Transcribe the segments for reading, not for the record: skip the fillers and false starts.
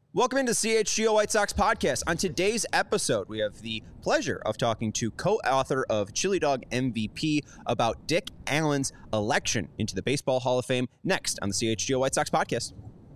Welcome into CHGO White Sox podcast. On today's episode, we have the pleasure of talking to co-author of Chili Dog MVP about Dick Allen's election into the Baseball Hall of Fame next on the CHGO White Sox podcast.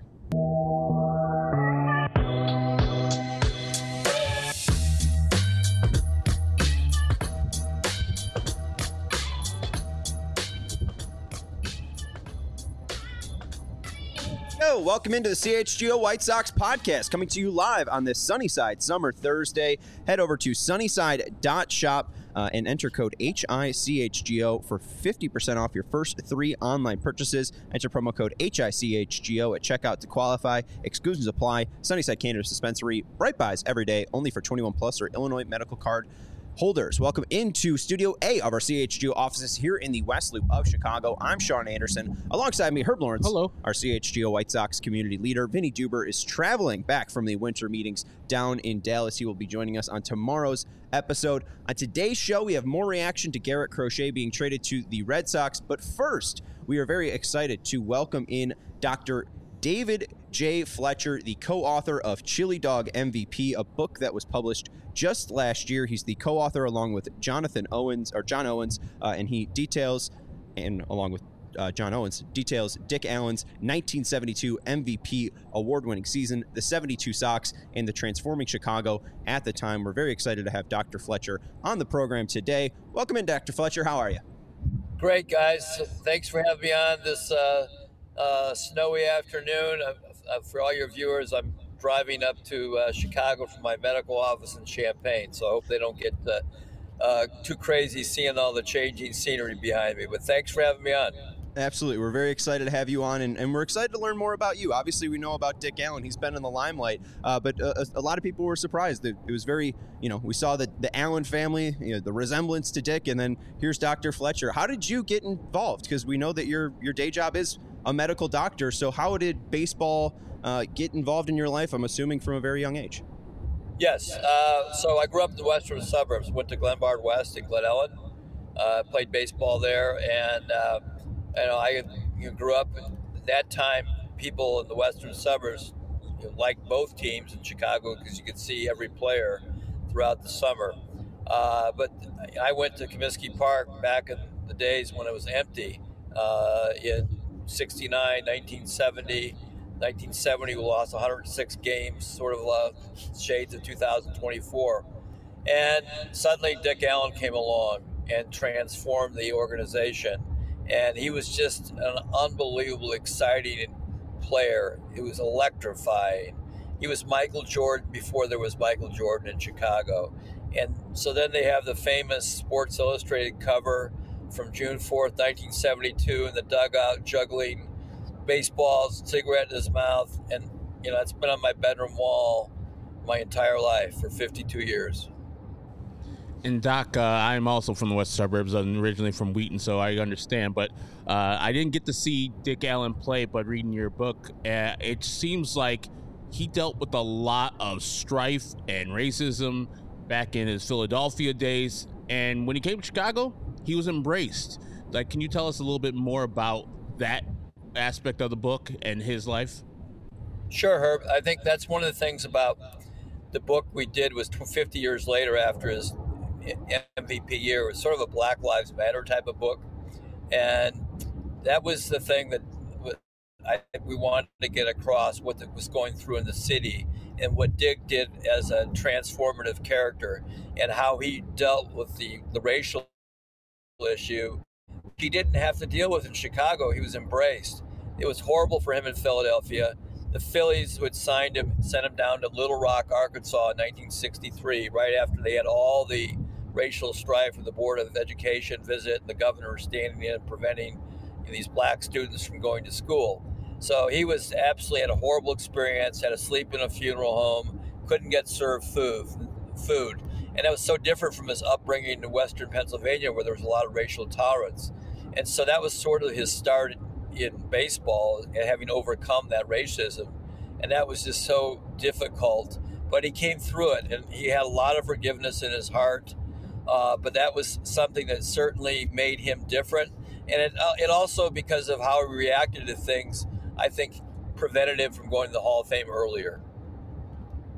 Welcome into the CHGO White Sox podcast, coming to you live on this Sunnyside Summer Thursday. Head over to sunnyside.shop and enter code HICHGO for 50% off your first 3 online purchases. Enter promo code HICHGO at checkout to qualify. Exclusions apply. Sunnyside Cannabis Dispensary. Bright buys every day, only for 21 plus or Illinois medical card holders. Welcome into Studio A of our CHGO offices here in the West Loop of Chicago. I'm Sean Anderson. Alongside me, Herb Lawrence. Hello. Our CHGO White Sox community leader. Vinny Duber is traveling back from the winter meetings down in Dallas. He will be joining us on tomorrow's episode. On today's show, we have more reaction to Garrett Crochet being traded to the Red Sox. But first, we are very excited to welcome in Dr. David J. Fletcher, the co-author of Chili Dog MVP, a book that was published just last year. He's the co-author along with John Owens, and he details, and along with John Owens, details Dick Allen's 1972 MVP award-winning season, the 72 Sox, and the transforming Chicago at the time. We're very excited to have Dr. Fletcher on the program today. Welcome in, Dr. Fletcher. How are you? Great, guys. Thanks for having me on this snowy afternoon. For all your viewers, I'm driving up to Chicago from my medical office in Champaign, so I hope they don't get too crazy seeing all the changing scenery behind me. But thanks for having me on. Absolutely. We're very excited to have you on, and we're excited to learn more about you. Obviously, we know about Dick Allen. He's been in the limelight, but a lot of people were surprised. It was very, we saw the Allen family, the resemblance to Dick, and then here's Dr. Fletcher. How did you get involved? Because we know that your day job is a medical doctor, so how did baseball get involved in your life, I'm assuming from a very young age? Yes. So I grew up in the western suburbs, went to Glenbard West and Glen Ellen, played baseball there, and I grew up at that time. People in the western suburbs liked both teams in Chicago because you could see every player throughout the summer. But I went to Comiskey Park back in the days when it was empty in 69, 1970. 1970, we lost 106 games, sort of shades of 2024. And suddenly Dick Allen came along and transformed the organization. And he was just an unbelievable, exciting player. It was electrifying. He was Michael Jordan before there was Michael Jordan in Chicago. And so then they have the famous Sports Illustrated cover from June 4th, 1972, in the dugout, juggling baseballs, cigarette in his mouth. And, it's been on my bedroom wall my entire life for 52 years. And Doc, I'm also from the west suburbs. I'm originally from Wheaton, so I understand. But I didn't get to see Dick Allen play, but reading your book, it seems like he dealt with a lot of strife and racism back in his Philadelphia days. And when he came to Chicago, he was embraced. Like, can you tell us a little bit more about that aspect of the book and his life? Sure, Herb. I think that's one of the things about the book we did was 50 years later after his MVP year. It was sort of a Black Lives Matter type of book. And that was the thing that we wanted to get across, what was going through in the city and what Dick did as a transformative character and how he dealt with the racial issue he didn't have to deal with in Chicago. He was embraced. It was horrible for him in Philadelphia. The Phillies, who had signed him, sent him down to Little Rock, Arkansas in 1963, right after they had all the racial strife with the Board of Education visit and the governor standing in and preventing these black students from going to school. So he was absolutely had a horrible experience, had to sleep in a funeral home, couldn't get served food. And that was so different from his upbringing in Western Pennsylvania, where there was a lot of racial tolerance. And so that was sort of his start in baseball, and having overcome that racism. And that was just so difficult. But he came through it, and he had a lot of forgiveness in his heart. But that was something that certainly made him different. And it also, because of how he reacted to things, I think prevented him from going to the Hall of Fame earlier.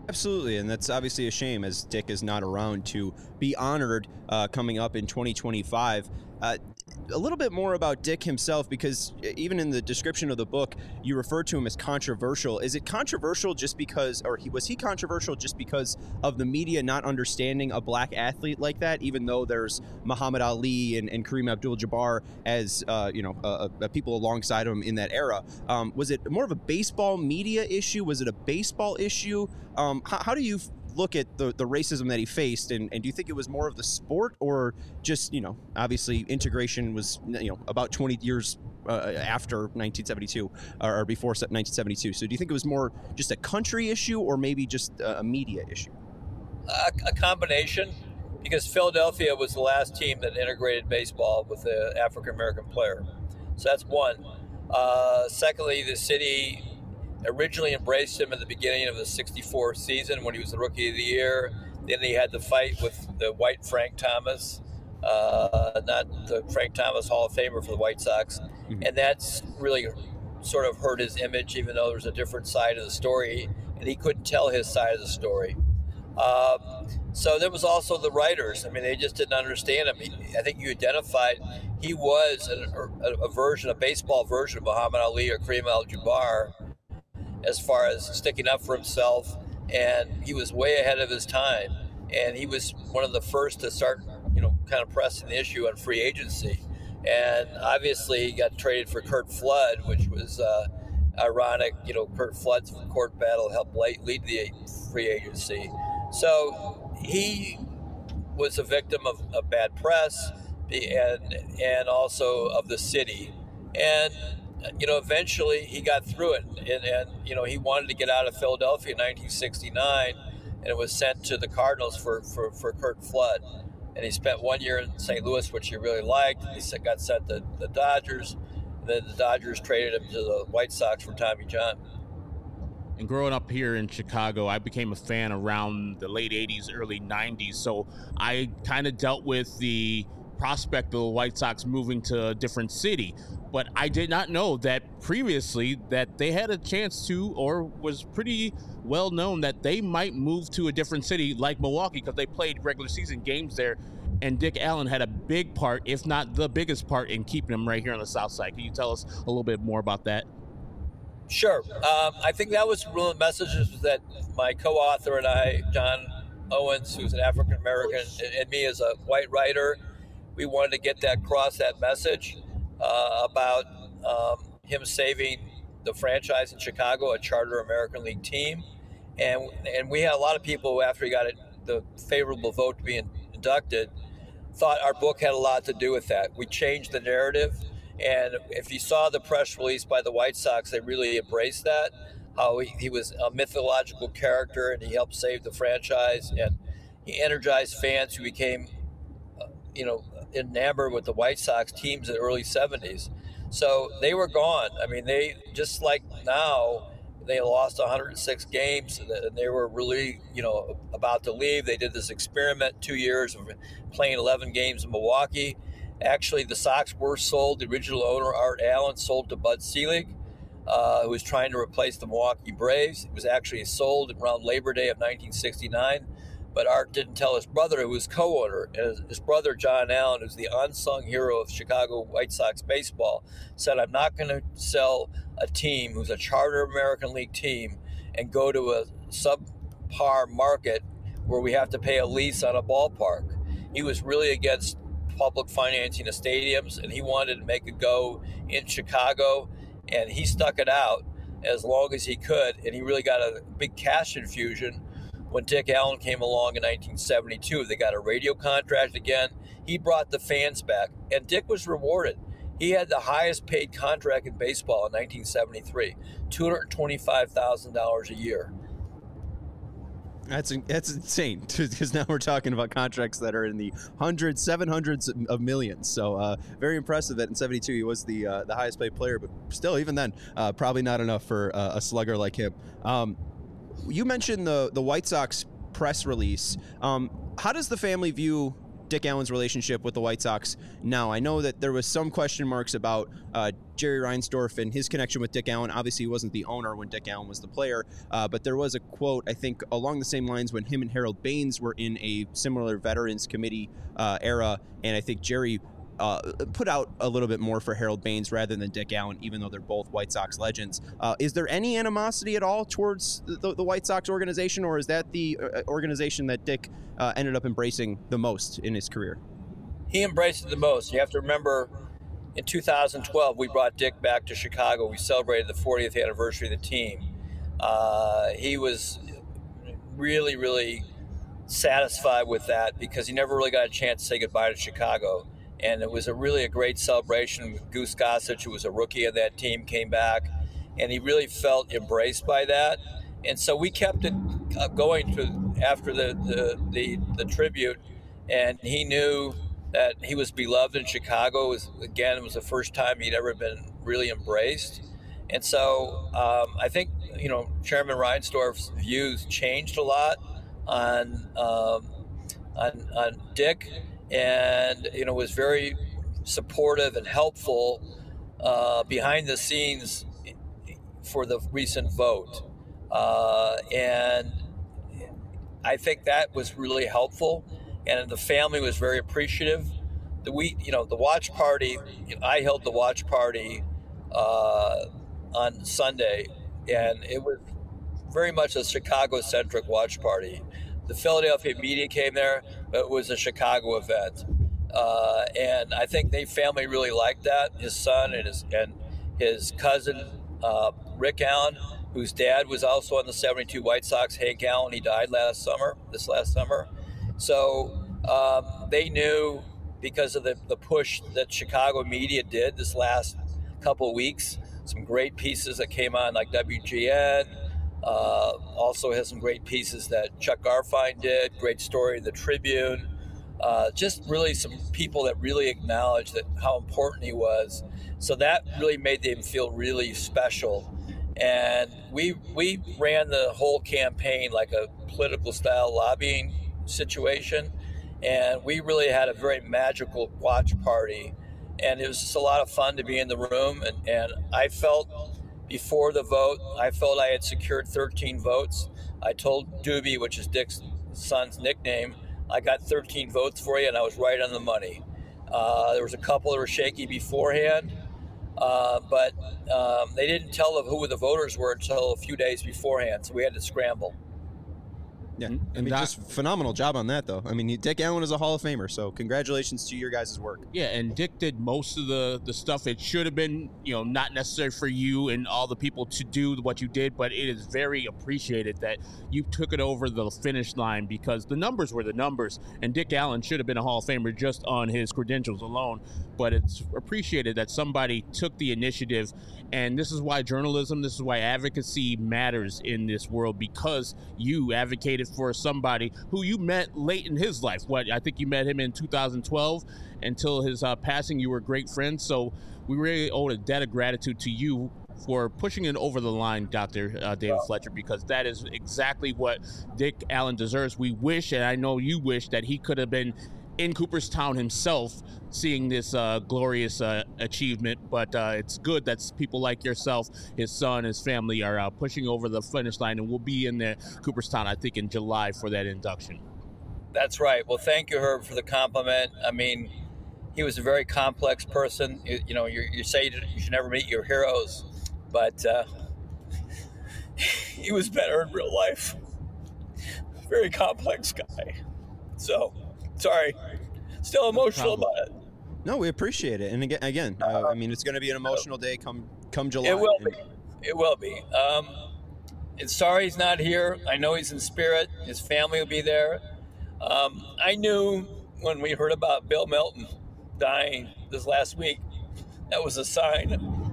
Absolutely, and that's obviously a shame as Dick is not around to be honored coming up in 2025. A little bit more about Dick himself, because even in the description of the book, you refer to him as controversial. Is it controversial just because, or was he controversial just because of the media not understanding a black athlete like that, even though there's Muhammad Ali and Kareem Abdul-Jabbar as, people alongside him in that era? Was it more of a baseball media issue? Was it a baseball issue? How do you look at the racism that he faced, and do you think it was more of the sport, or just, obviously integration was, about 20 years after 1972 or before 1972? So do you think it was more just a country issue, or maybe just a media issue? A combination, because Philadelphia was the last team that integrated baseball with the African-American player. So that's one. Secondly, the city originally embraced him at the beginning of the 64 season when he was the Rookie of the Year. Then he had the fight with the white Frank Thomas, not the Frank Thomas Hall of Famer for the White Sox. Mm-hmm. And that's really sort of hurt his image, even though there's a different side of the story, and he couldn't tell his side of the story. So there was also the writers. I mean, they just didn't understand him. I think you identified he was a baseball version of Muhammad Ali or Kareem Abdul-Jabbar, as far as sticking up for himself, and he was way ahead of his time, and he was one of the first to start, kind of pressing the issue on free agency. And obviously he got traded for Curt Flood, which was ironic. Curt Flood's court battle helped lead the free agency. So he was a victim of bad press and also of the city. And eventually he got through it, and he wanted to get out of Philadelphia in 1969, and it was sent to the Cardinals for Curt Flood, and he spent 1 year in St. Louis, which he really liked. He got sent to the Dodgers, and then the Dodgers traded him to the White Sox for Tommy John. And growing up here in Chicago, I became a fan around the late 80s, early 90s, so I kind of dealt with the prospect of the White Sox moving to a different city. But I did not know that previously that they had a chance to, or was pretty well known that they might move to a different city like Milwaukee, because they played regular season games there, and Dick Allen had a big part, if not the biggest part, in keeping them right here on the South Side. Can you tell us a little bit more about that? Sure. I think that was one of the messages that my co-author and I, John Owens, who's an African American, and me as a white writer, we wanted to get across that message about him saving the franchise in Chicago, a charter American League team. And we had a lot of people, after he got the favorable vote to be inducted, thought our book had a lot to do with that. We changed the narrative. And if you saw the press release by the White Sox, they really embraced that, how he was a mythological character, and he helped save the franchise, and he energized fans who became enamored with the White Sox teams in the early 70s. So they were gone. I mean, they, just like now, they lost 106 games, and they were really, about to leave. They did this experiment, 2 years of playing 11 games in Milwaukee. Actually, the Sox were sold. The original owner, Art Allen, sold to Bud Selig, who was trying to replace the Milwaukee Braves. It was actually sold around Labor Day of 1969. But Art didn't tell his brother, who was co-owner. And his brother, John Allen, who's the unsung hero of Chicago White Sox baseball, said, I'm not going to sell a team who's a charter American League team and go to a subpar market where we have to pay a lease on a ballpark. He was really against public financing of stadiums, and he wanted to make a go in Chicago, and he stuck it out as long as he could, and he really got a big cash infusion when Dick Allen came along in 1972. They got a radio contract again. He brought the fans back, and Dick was rewarded. He had the highest paid contract in baseball in 1973, $225,000 a year. That's insane, because now we're talking about contracts that are in the hundreds, 700s of millions. So very impressive that in 72 he was the highest paid player, but still, even then, probably not enough for a slugger like him. You mentioned the White Sox press release. How does the family view Dick Allen's relationship with the White Sox now? I know that there was some question marks about Jerry Reinsdorf and his connection with Dick Allen. Obviously, he wasn't the owner when Dick Allen was the player, but there was a quote, I think, along the same lines when him and Harold Baines were in a similar Veterans Committee era, and I think Jerry put out a little bit more for Harold Baines rather than Dick Allen, even though they're both White Sox legends. Is there any animosity at all towards the White Sox organization, or is that the organization that Dick ended up embracing the most in his career? He embraced it the most. You have to remember, in 2012, we brought Dick back to Chicago. We celebrated the 40th anniversary of the team. He was really, really satisfied with that because he never really got a chance to say goodbye to Chicago. And it was really a great celebration. Goose Gossage, who was a rookie of that team, came back, and he really felt embraced by that. And so we kept it going after the tribute, and he knew that he was beloved in Chicago. It was the first time he'd ever been really embraced. And so I think, Chairman Reinsdorf's views changed a lot on Dick. And was very supportive and helpful behind the scenes for the recent vote, and I think that was really helpful. And the family was very appreciative. The watch party. I held the watch party on Sunday, and it was very much a Chicago-centric watch party. The Philadelphia media came there, but it was a Chicago event, and I think the family really liked that. His son and his cousin Rick Allen, whose dad was also on the '72 White Sox, Hank Allen. He died this last summer. So they knew, because of the push that Chicago media did this last couple of weeks, some great pieces that came on, like WGN. Also has some great pieces that Chuck Garfien did, great story in the Tribune. Just really some people that really acknowledged how important he was. So that really made them feel really special. And we ran the whole campaign like a political style lobbying situation. And we really had a very magical watch party. And it was just a lot of fun to be in the room. And I felt, before the vote, I felt I had secured 13 votes. I told Doobie, which is Dick's son's nickname, I got 13 votes for you, and I was right on the money. There was a couple that were shaky beforehand, but they didn't tell who the voters were until a few days beforehand, so we had to scramble. Yeah, I mean, just phenomenal job on that, though. I mean, Dick Allen is a Hall of Famer, so congratulations to your guys' work. Yeah, and Dick did most of the stuff. It should have been, not necessary for you and all the people to do what you did, but it is very appreciated that you took it over the finish line, because the numbers were the numbers, and Dick Allen should have been a Hall of Famer just on his credentials alone. But it's appreciated that somebody took the initiative, and this is why journalism, this is why advocacy matters in this world, because you advocated for somebody who you met late in his life. I think you met him in 2012. Until his passing, you were great friends. So we really owe a debt of gratitude to you for pushing it over the line, Dr. David Fletcher, because that is exactly what Dick Allen deserves. We wish, and I know you wish, that he could have been in Cooperstown himself seeing this glorious achievement, but it's good that people like yourself, his son, his family are pushing over the finish line, and we'll be in there, Cooperstown, I think in July, for that induction. That's right. Well, thank you, Herb, for the compliment. I mean, he was a very complex person. You say you should never meet your heroes, but he was better in real life. Very complex guy. So, sorry. Still emotional about it. No, we appreciate it. And again, I mean, it's going to be an emotional day come July. It will be. It will be. And sorry he's not here. I know he's in spirit. His family will be there. I knew when we heard about Bill Melton dying this last week, that was a sign.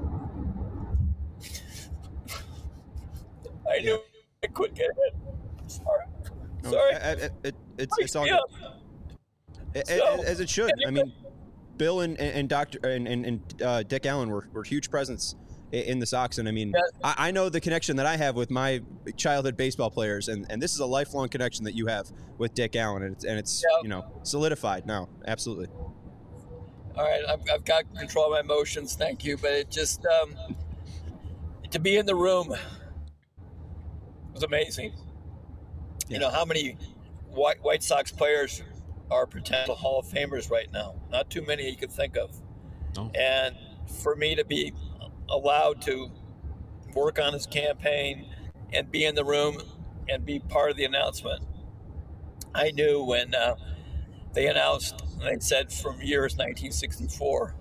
I knew I couldn't get it. Sorry. It's all good. As it should. I mean, Bill and Dick Allen were huge presence in the Sox. And I mean, Yeah. I know the connection that I have with my childhood baseball players, and this is a lifelong connection that you have with Dick Allen, and it's Yeah. solidified now. Absolutely. All right, I've got control of my emotions. Thank you, but it just to be in the room was amazing. Yeah. You know how many White Sox players are potential Hall of Famers right now? Not too many you could think of. No. And for me to be allowed to work on his campaign and be in the room and be part of the announcement, I knew when they announced, and they said from years 1964.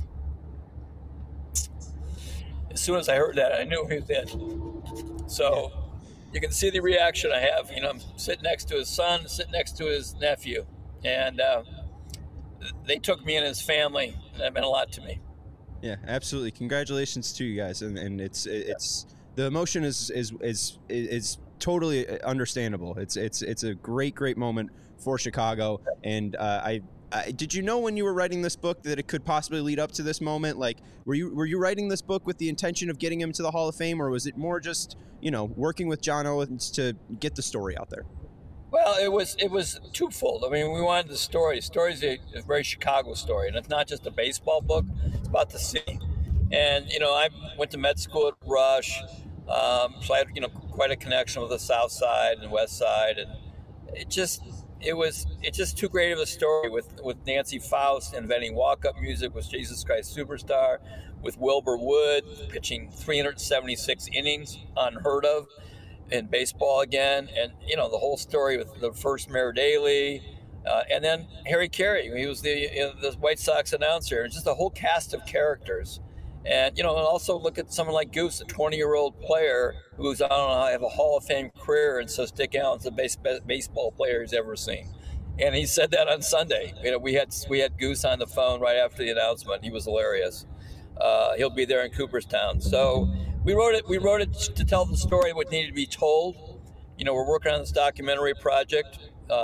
As soon as I heard that, I knew he was in. So you can see the reaction I have. You know, I'm sitting next to his son, sitting next to his nephew, and they took me and his family. And that meant a lot to me. Yeah, absolutely. Congratulations to you guys, and it's the emotion is totally understandable. It's a great moment for Chicago, and I did you know when you were writing this book that it could possibly lead up to this moment? Like, were you writing this book with the intention of getting him to the Hall of Fame, or was it more just working with John Owens to get the story out there? Well, it was twofold. I mean, we wanted the story. The story is a very Chicago story, and it's not just a baseball book. It's about the city. And I went to med school at Rush, so I had quite a connection with the South Side and West Side, and it's just too great of a story with Nancy Faust inventing walk-up music with Jesus Christ Superstar, with Wilbur Wood pitching 376 innings, unheard of in baseball again, and the whole story with the first Mayor Daley, and then Harry Carey. He was the White Sox announcer, and just a whole cast of characters. And and also look at someone like Goose, a 20-year-old player who's have a Hall of Fame career, and says Dick Allen's the best baseball player he's ever seen. And he said that on Sunday. We had Goose on the phone right after the announcement. He was hilarious. He'll be there in Cooperstown. So we wrote it to tell the story what needed to be told. We're working on this documentary project,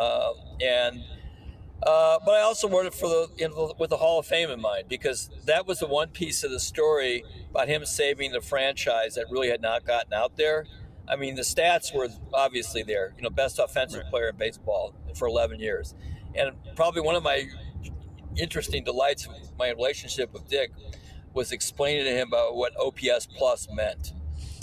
but I also wrote it with the Hall of Fame in mind, because that was the one piece of the story about him saving the franchise that really had not gotten out there. I mean, the stats were obviously there. Best offensive player in baseball for 11 years, and probably one of my interesting delights of my relationship with Dick was explaining to him about what OPS plus meant.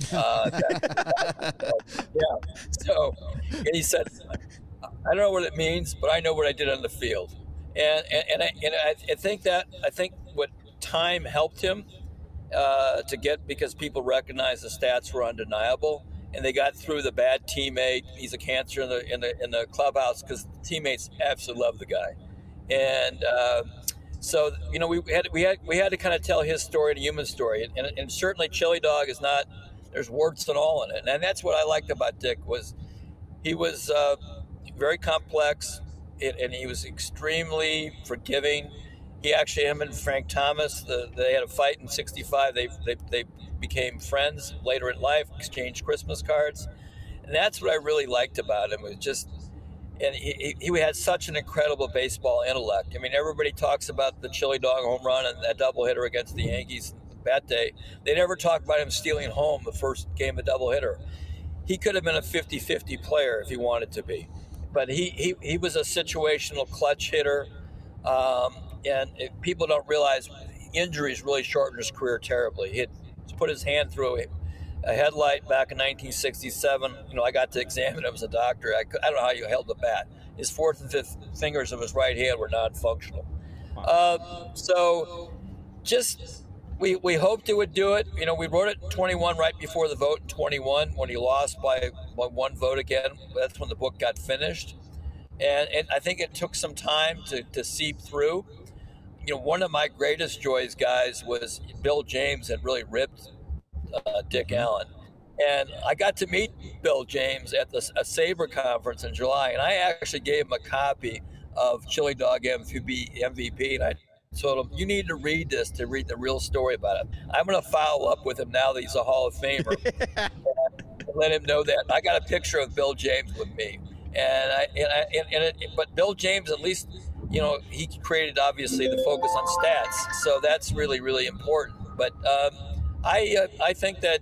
So, and he said, I don't know what it means, but I know what I did on the field. And I think what time helped him to get, because people recognized the stats were undeniable, and they got through the bad teammate. He's a cancer in the clubhouse, because the teammates absolutely love the guy. And so we had to kind of tell his story, the human story, and certainly Chili Dog is not. There's warts and all in it, and that's what I liked about Dick. Was he was very complex, and he was extremely forgiving. He actually, him and Frank Thomas, they had a fight in '65. They became friends later in life, exchanged Christmas cards, and that's what I really liked about him. It was just, and he had such an incredible baseball intellect. I mean, everybody talks about the Chili Dog home run and that doubleheader against the Yankees that day. They never talk about him stealing home the first game of doubleheader. He could have been a 50-50 player if he wanted to be. But he was a situational clutch hitter, and people don't realize injuries really shortened his career terribly. He had put his hand through a headlight back in 1967. I got to examine him as a doctor. I don't know how you held the bat. His fourth and fifth fingers of his right hand were non-functional. So just we hoped it would do it. We wrote it in 21 right before the vote in 21 when he lost by one vote again. That's when the book got finished. And I think it took some time to seep through. One of my greatest joys, guys, was Bill James had really ripped Dick Allen. And I got to meet Bill James at a SABR conference in July, and I actually gave him a copy of Chili Dog MVP, and I told him, you need to read this to read the real story about it. I'm going to follow up with him now that he's a Hall of Famer and let him know that. I got a picture of Bill James with me. But Bill James, at least, he created, obviously, the focus on stats. So that's really, really important. But I think that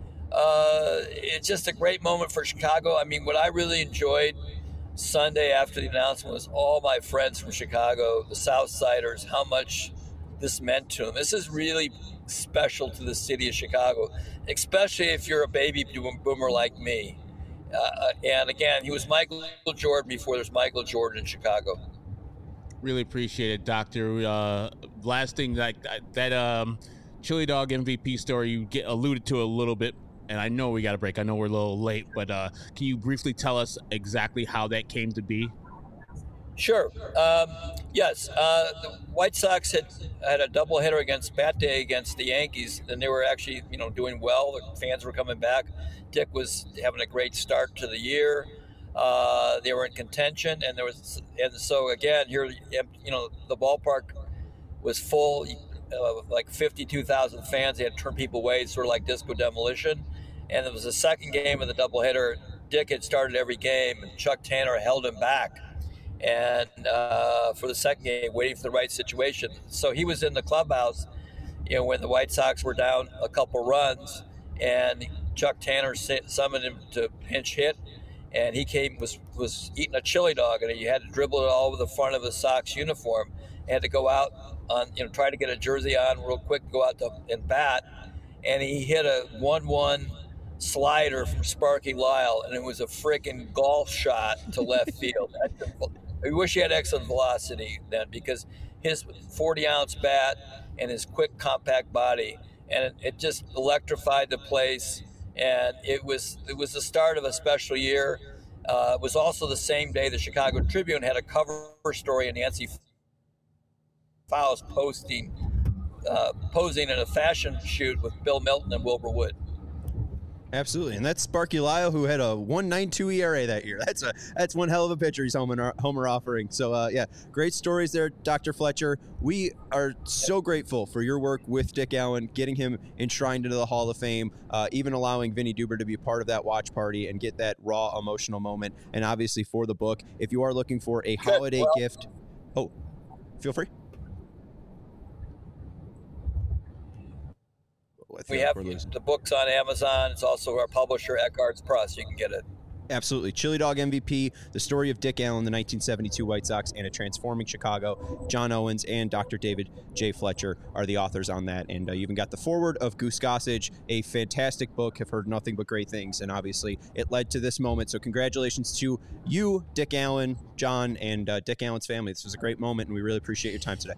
it's just a great moment for Chicago. I mean, what I really enjoyed Sunday after the announcement was all my friends from Chicago, the Southsiders, how much this meant to them. This is really special to the city of Chicago, especially if you're a baby boomer like me. And again, he was Michael Jordan before there's Michael Jordan in Chicago. Really appreciate it, Doctor. Last thing, that Chili Dog MVP story you alluded to a little bit, and I know we got a break. I know we're a little late, but can you briefly tell us exactly how that came to be? Sure. Yes. The White Sox had a doubleheader against Bat Day against the Yankees, and they were actually, doing well. The fans were coming back. Dick was having a great start to the year. They were in contention, and so again here, the ballpark was full, like 52,000 fans. They had turned people away, sort of like Disco Demolition. And it was the second game of the doubleheader. Dick had started every game, and Chuck Tanner held him back. And for the second game, waiting for the right situation. So he was in the clubhouse, when the White Sox were down a couple runs, and Chuck Tanner summoned him to pinch hit, and he was eating a chili dog, and he had to dribble it all over the front of the Sox uniform, and had to go out on, try to get a jersey on real quick, go out and bat, and he hit a 1-1 slider from Sparky Lyle, and it was a freaking golf shot to left field. I wish he had excellent velocity then, because his 40-ounce bat and his quick, compact body, and it just electrified the place. And it was the start of a special year. It was also the same day the Chicago Tribune had a cover story of Nancy Faust posing in a fashion shoot with Bill Milton and Wilbur Wood. Absolutely, and that's Sparky Lyle, who had a 1.92 ERA that year. That's one hell of a pitcher he's homer offering. So, great stories there, Dr. Fletcher. We are so grateful for your work with Dick Allen, getting him enshrined into the Hall of Fame, even allowing Vinny Duber to be a part of that watch party and get that raw, emotional moment, and obviously for the book. If you are looking for a holiday gift, feel free. We have the books on Amazon. It's also our publisher, Eckhart's Press. You can get it. Absolutely. Chili Dog MVP, the story of Dick Allen, the 1972 White Sox, and a transforming Chicago. John Owens and Dr. David J. Fletcher are the authors on that. And you even got the foreword of Goose Gossage, a fantastic book. Have heard nothing but great things. And obviously, it led to this moment. So congratulations to you, Dick Allen, John, and Dick Allen's family. This was a great moment, and we really appreciate your time today.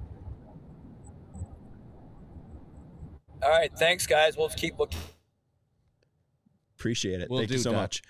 All right. Thanks, guys. We'll keep looking. Appreciate it. Thank you so much.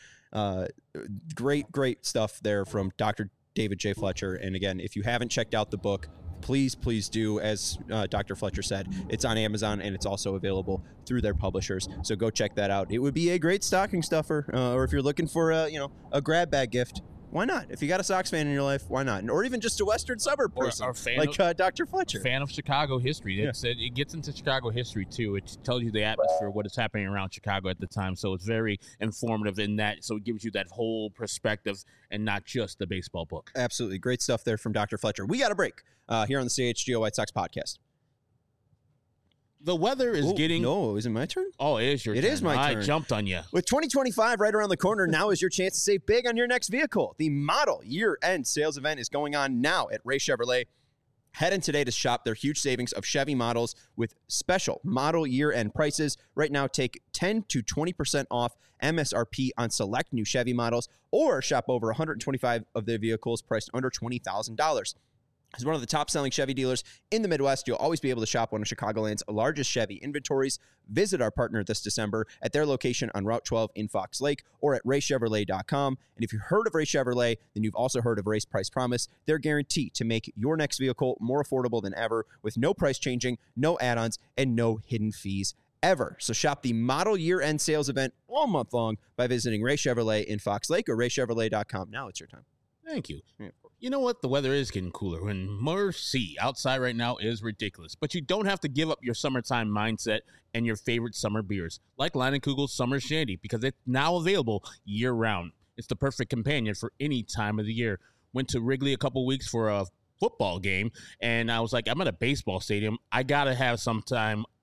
Great stuff there from Dr. David J. Fletcher. And again, if you haven't checked out the book, please do. As Dr. Fletcher said, it's on Amazon, and it's also available through their publishers. So go check that out. It would be a great stocking stuffer, or if you're looking for a grab bag gift. Why not? If you got a Sox fan in your life, why not? Or even just a Western suburb person, or fan like Dr. Fletcher. Fan of Chicago history. It gets into Chicago history, too. It tells you the atmosphere, what is happening around Chicago at the time. So it's very informative in that. So it gives you that whole perspective and not just the baseball book. Absolutely. Great stuff there from Dr. Fletcher. We got a break here on the CHGO White Sox podcast. The weather is getting... No, is it my turn? Oh, it is your turn. It is my turn. I jumped on you. With 2025 right around the corner, now is your chance to save big on your next vehicle. The model year-end sales event is going on now at Ray Chevrolet. Head in today to shop their huge savings of Chevy models with special model year-end prices. Right now, take 10 to 20% off MSRP on select new Chevy models, or shop over 125 of their vehicles priced under $20,000. As one of the top-selling Chevy dealers in the Midwest, you'll always be able to shop one of Chicagoland's largest Chevy inventories. Visit our partner this December at their location on Route 12 in Fox Lake or at raychevrolet.com. And if you've heard of Ray Chevrolet, then you've also heard of Ray's Price Promise. Their guarantee to make your next vehicle more affordable than ever with no price changing, no add-ons, and no hidden fees ever. So shop the model year-end sales event all month long by visiting Ray Chevrolet in Fox Lake or raychevrolet.com. Now it's your time. Thank you. You know what? The weather is getting cooler, and mercy, outside right now is ridiculous. But you don't have to give up your summertime mindset and your favorite summer beers, like Leinenkugel's Summer Shandy, because it's now available year-round. It's the perfect companion for any time of the year. Went to Wrigley a couple weeks for a football game, and I was like, I'm at a baseball stadium. I got to have some time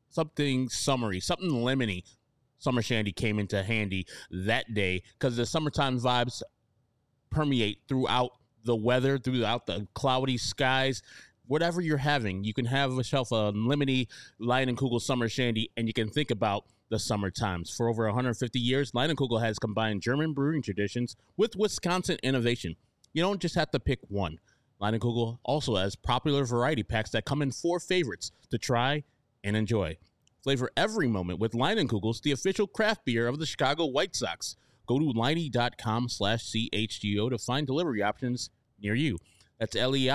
something summery, something lemony. Summer Shandy came into handy that day because the summertime vibes permeate throughout the weather, throughout the cloudy skies. Whatever you're having, you can have yourself a lemony Leinenkugel Summer Shandy, and you can think about the summer times. For over 150 years, Leinenkugel has combined German brewing traditions with Wisconsin innovation. You don't just have to pick one. Leinenkugel also has popular variety packs that come in 4 favorites to try and enjoy. Flavor every moment with Leinenkugels, the official craft beer of the Chicago White Sox. Go to Leinie.com/CHGO to find delivery options near you. That's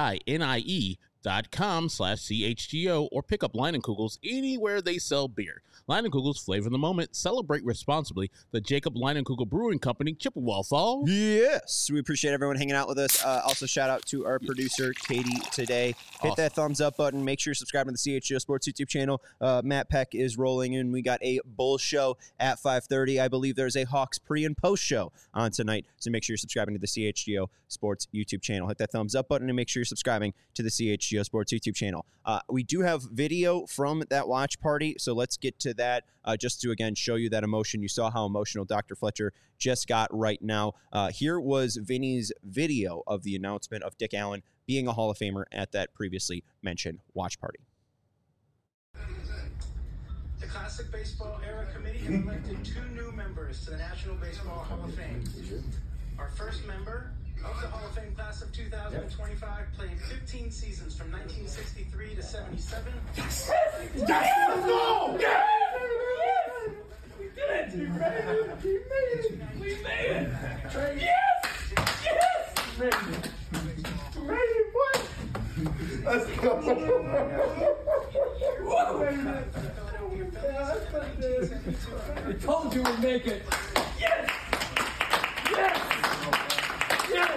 LEINIE.com/CHGO or pick up Leinenkugels anywhere they sell beer. Leinenkugels, flavor the moment. Celebrate responsibly. The Jacob Leinenkugel Brewing Company, Chippewa Falls. Yes, we appreciate everyone hanging out with us. Also, shout out to our producer, Katie, today. Hit that thumbs up button. Make sure you're subscribing to the CHGO Sports YouTube channel. Matt Peck is rolling in. We got a Bulls show at 5:30. I believe there's a Hawks pre- and post show on tonight. So make sure you're subscribing to the CHGO Sports YouTube channel. Hit that thumbs up button and make sure you're subscribing to the CHGO Sports YouTube channel. We do have video from that watch party, so let's get to that just to, again, show you that emotion. You saw how emotional Dr. Fletcher just got right now. Here was Vinny's video of the announcement of Dick Allen being a Hall of Famer at that previously mentioned watch party. The Classic Baseball Era Committee has elected 2 new members to the National Baseball Hall of Fame. Our first member of the Hall of Fame class of 2025 played 15 seasons from 1963 to 77. Yes! Let's go! Yes! We did it! We made it! We made it! Yes! Yes! We made it! We made it, boy! Let's go! I told you we'd make it! Yes! Yes! Yes!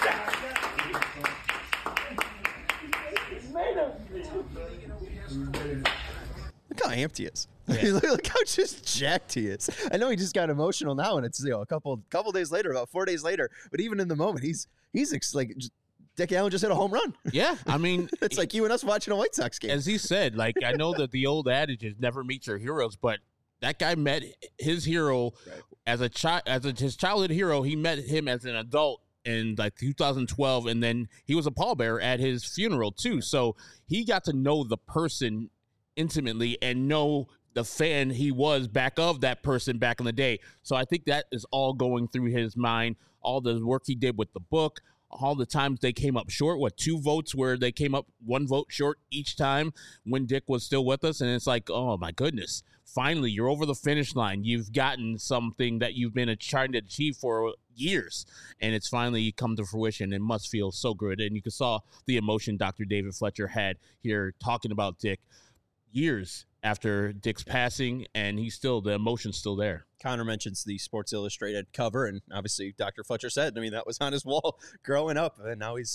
Look how amped he is. Yeah. Look how just jacked he is. I know he just got emotional now, and it's a couple days later, about 4 days later. But even in the moment, he's like Dick Allen just hit a home run. Yeah, I mean, it's like you and us watching a White Sox game. As he said, like, I know that the old adage is never meet your heroes, but that guy met his hero as his childhood hero. He met him as an adult in like 2012, and then he was a pallbearer at his funeral too. So he got to know the person intimately and know the fan he was back of that person back in the day. So I think that is all going through his mind, all the work he did with the book, all the times they came up short, 2 votes where they came up 1 vote short each time when Dick was still with us. And it's like, oh my goodness, finally you're over the finish line. You've gotten something that you've been trying to achieve for years, and it's finally come to fruition. It must feel so good. And you saw the emotion Dr. David Fletcher had here talking about Dick years after Dick's passing, and the emotion's still there. Connor mentions the Sports Illustrated cover, and obviously Dr. Fletcher said, I mean, that was on his wall growing up, and now he's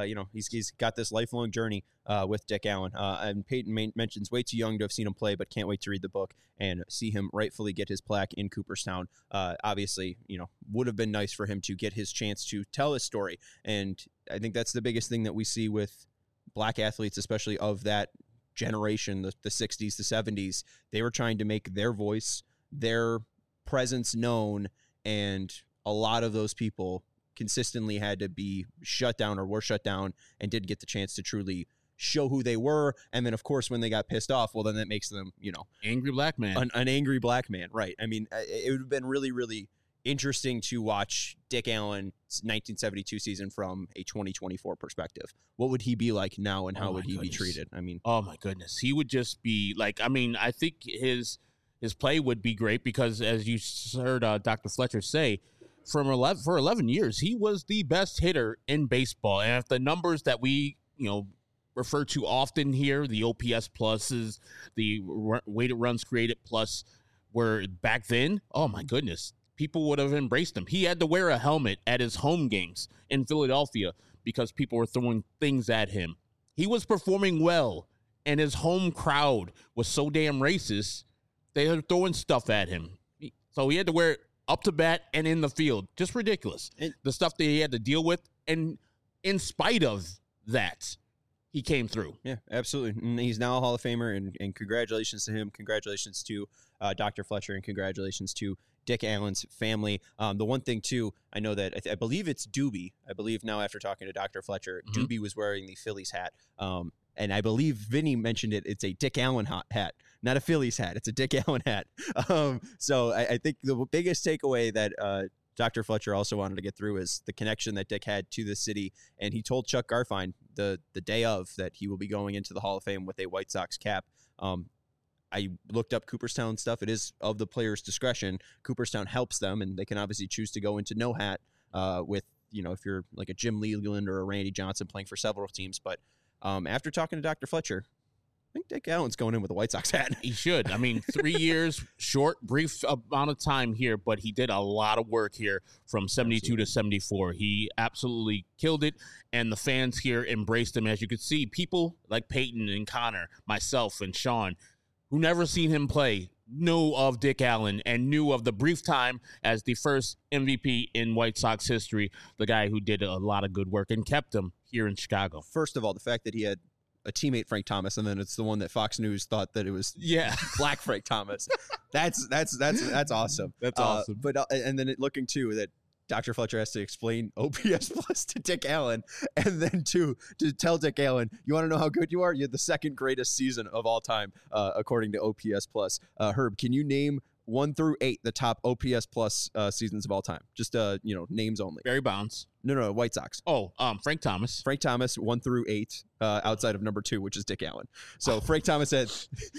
got this lifelong journey with Dick Allen. And Peyton mentions way too young to have seen him play, but can't wait to read the book and see him rightfully get his plaque in Cooperstown. Obviously, would have been nice for him to get his chance to tell his story. And I think that's the biggest thing that we see with black athletes, especially of that generation, the 60s, the 70s. They were trying to make their voice, their presence known, and a lot of those people consistently had to be shut down or were shut down and didn't get the chance to truly show who they were. And then, of course, when they got pissed off, well, then that makes them, angry black man. An angry black man, right? I mean, it would have been really, really interesting to watch Dick Allen's 1972 season from a 2024 perspective. What would he be like now, and how would he be treated? I mean, oh my goodness, he would just be like, I mean, I think his play would be great because, as you heard Dr. Fletcher say, for 11 years, he was the best hitter in baseball. And if the numbers that we, refer to often here, the OPS pluses, the weighted runs created plus, were back then, oh my goodness, people would have embraced him. He had to wear a helmet at his home games in Philadelphia because people were throwing things at him. He was performing well, and his home crowd was so damn racist, they were throwing stuff at him. So he had to wear it up to bat and in the field. Just ridiculous. The stuff that he had to deal with. And in spite of that, he came through. Yeah, absolutely. And he's now a Hall of Famer, and congratulations to him. Congratulations to Dr. Fletcher, and congratulations to Dick Allen's family. The one thing, too, I know that I believe it's Doobie. I believe now after talking to Dr. Fletcher, Doobie was wearing the Phillies hat. And I believe Vinny mentioned it. It's a Dick Allen hat, not a Phillies hat. It's a Dick Allen hat. So I think the biggest takeaway that Dr. Fletcher also wanted to get through is the connection that Dick had to the city. And he told Chuck Garfien the day of that he will be going into the Hall of Fame with a White Sox cap. I looked up Cooperstown stuff. It is of the player's discretion. Cooperstown helps them, and they can obviously choose to go into no hat with, if you're like a Jim Leland or a Randy Johnson playing for several teams. But after talking to Dr. Fletcher, I think Dick Allen's going in with a White Sox hat. He should. I mean, 3 years, short, brief amount of time here, but he did a lot of work here from 72 to 74. He absolutely killed it, and the fans here embraced him. As you could see, people like Peyton and Connor, myself and Sean, who never seen him play, knew of Dick Allen and knew of the brief time as the first MVP in White Sox history, the guy who did a lot of good work and kept him here in Chicago. First of all, the fact that he had a teammate, Frank Thomas, and then it's the one that Fox News thought that it was black Frank Thomas. That's awesome. That's awesome. But and then looking too that Dr. Fletcher has to explain OPS plus to Dick Allen, and then to tell Dick Allen, you want to know how good you are? You had the second greatest season of all time, according to OPS plus. Herb, can you name 1 through 8 the top OPS plus seasons of all time? Just names only. Barry Bonds. No, White Sox. Oh, Frank Thomas. Frank Thomas, 1 through 8, outside of number 2, which is Dick Allen. So Frank Thomas had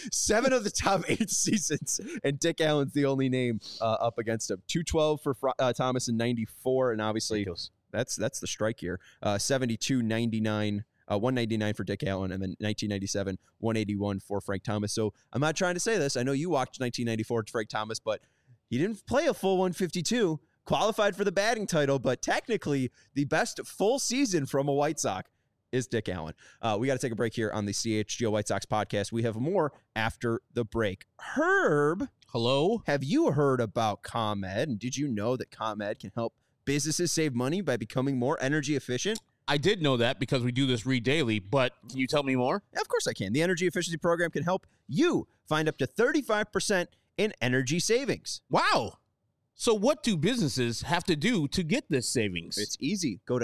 7 of the top 8 seasons, and Dick Allen's the only name up against him. 212 for Thomas in 94, and obviously that's the strike year. 72, 99. 199 for Dick Allen, and then 1997, 181 for Frank Thomas. So I'm not trying to say this. I know you watched 1994 to Frank Thomas, but he didn't play a full 152, qualified for the batting title, but technically the best full season from a White Sox is Dick Allen. We got to take a break here on the CHGO White Sox podcast. We have more after the break. Herb. Hello. Have you heard about ComEd? And did you know that ComEd can help businesses save money by becoming more energy efficient? I did know that because we do this read daily, but can you tell me more? Yeah, of course I can. The Energy Efficiency Program can help you find up to 35% in energy savings. Wow. So what do businesses have to do to get this savings? It's easy. Go to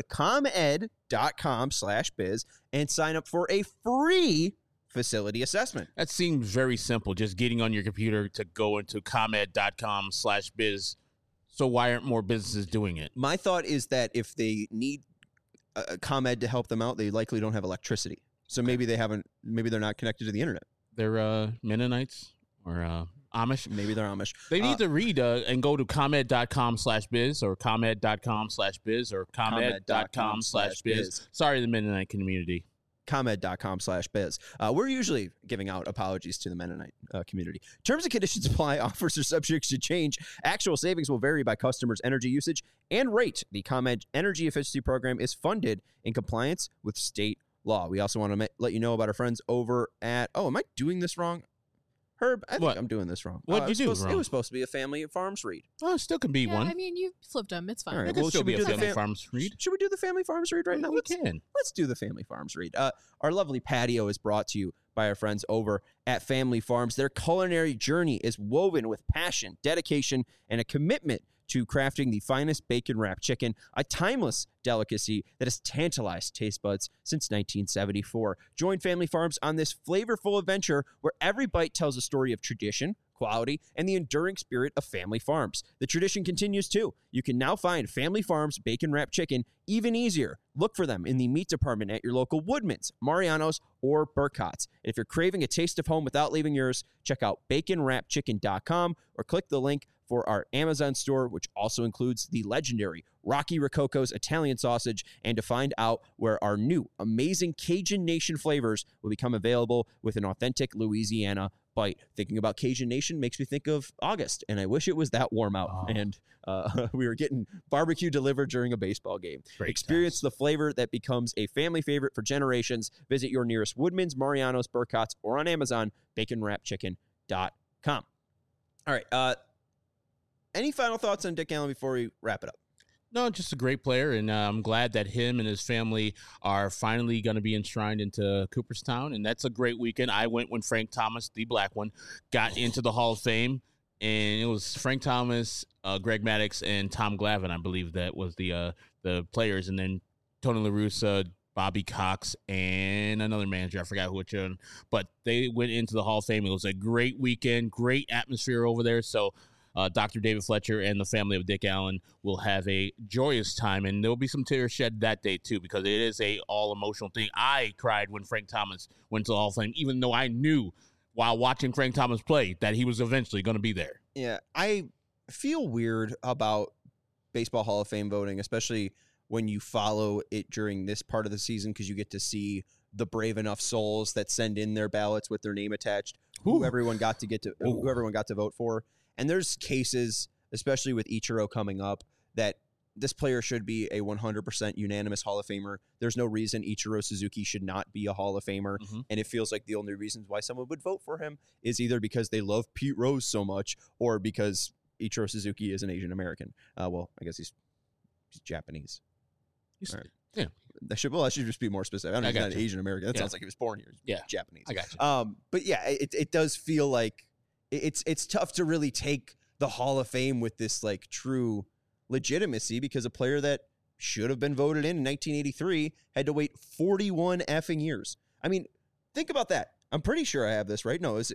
comed.com/biz and sign up for a free facility assessment. That seems very simple, just getting on your computer to go into comed.com/biz. So why aren't more businesses doing it? My thought is that if they need ComEd to help them out, they likely don't have electricity. So maybe they're not connected to the internet. They're Mennonites or Amish. Maybe they're Amish. They need to read and go to comed.com/biz or comed.com/biz or comed.com/biz. Sorry, the Mennonite community. ComEd.com/biz. We're usually giving out apologies to the Mennonite community. Terms and conditions apply. Offers are subject to change. Actual savings will vary by customers' energy usage and rate. The ComEd Energy Efficiency Program is funded in compliance with state law. We also want to let you know about our friends over at... Oh, am I doing this wrong? Herb, I think I'm doing this wrong. What did you do wrong? It was supposed to be a Family Farms read. Oh, it still can be one. I mean, you flipped them. It's fine. All right, It could still be a Family Farms read. Should we do the Family Farms read right now? We can. Let's do the Family Farms read. Our lovely patio is brought to you by our friends over at Family Farms. Their culinary journey is woven with passion, dedication, and a commitment to crafting the finest bacon wrapped chicken, a timeless delicacy that has tantalized taste buds since 1974. Join Family Farms on this flavorful adventure where every bite tells a story of tradition, quality, and the enduring spirit of Family Farms. The tradition continues too. You can now find Family Farms bacon wrapped chicken even easier. Look for them in the meat department at your local Woodman's, Mariano's, or Burcott's. And if you're craving a taste of home without leaving yours, check out baconwrappedchicken.com or click the link for our Amazon store, which also includes the legendary Rocky Rococo's Italian sausage, and to find out where our new amazing Cajun Nation flavors will become available with an authentic Louisiana bite. Thinking about Cajun Nation makes me think of August, and I wish it was that warm out. And we were getting barbecue delivered during a baseball game. Experience the flavor that becomes a family favorite for generations. Visit your nearest Woodman's, Mariano's, Burcott's, or on Amazon, baconwrappedchicken.com. All right. Any final thoughts on Dick Allen before we wrap it up? No, just a great player, and I'm glad that him and his family are finally going to be enshrined into Cooperstown, and that's a great weekend. I went when Frank Thomas, the black one, got into the Hall of Fame, and it was Frank Thomas, Greg Maddux, and Tom Glavine, I believe that was the players, and then Tony La Russa, Bobby Cox, and another manager. I forgot which one, but they went into the Hall of Fame. It was a great weekend, great atmosphere over there, so Dr. David Fletcher and the family of Dick Allen will have a joyous time, and there'll be some tears shed that day too, because it is a all-emotional thing. I cried when Frank Thomas went to the Hall of Fame, even though I knew while watching Frank Thomas play that he was eventually going to be there. Yeah, I feel weird about Baseball Hall of Fame voting, especially when you follow it during this part of the season, because you get to see the brave enough souls that send in their ballots with their name attached, who everyone got to vote for. And there's cases, especially with Ichiro coming up, that this player should be a 100% unanimous Hall of Famer. There's no reason Ichiro Suzuki should not be a Hall of Famer. Mm-hmm. And it feels like the only reasons why someone would vote for him is either because they love Pete Rose so much or because Ichiro Suzuki is an Asian American. Well, I guess he's Japanese. Right. Yeah. I should just be more specific. I don't know if he's not Asian American. That sounds like he was born here. He's Japanese. I got you. But yeah, it does feel like it's tough to really take the Hall of Fame with this like true legitimacy, because a player that should have been voted in 1983 had to wait 41 effing years. I mean, think about that. I'm pretty sure I have this right. No, it's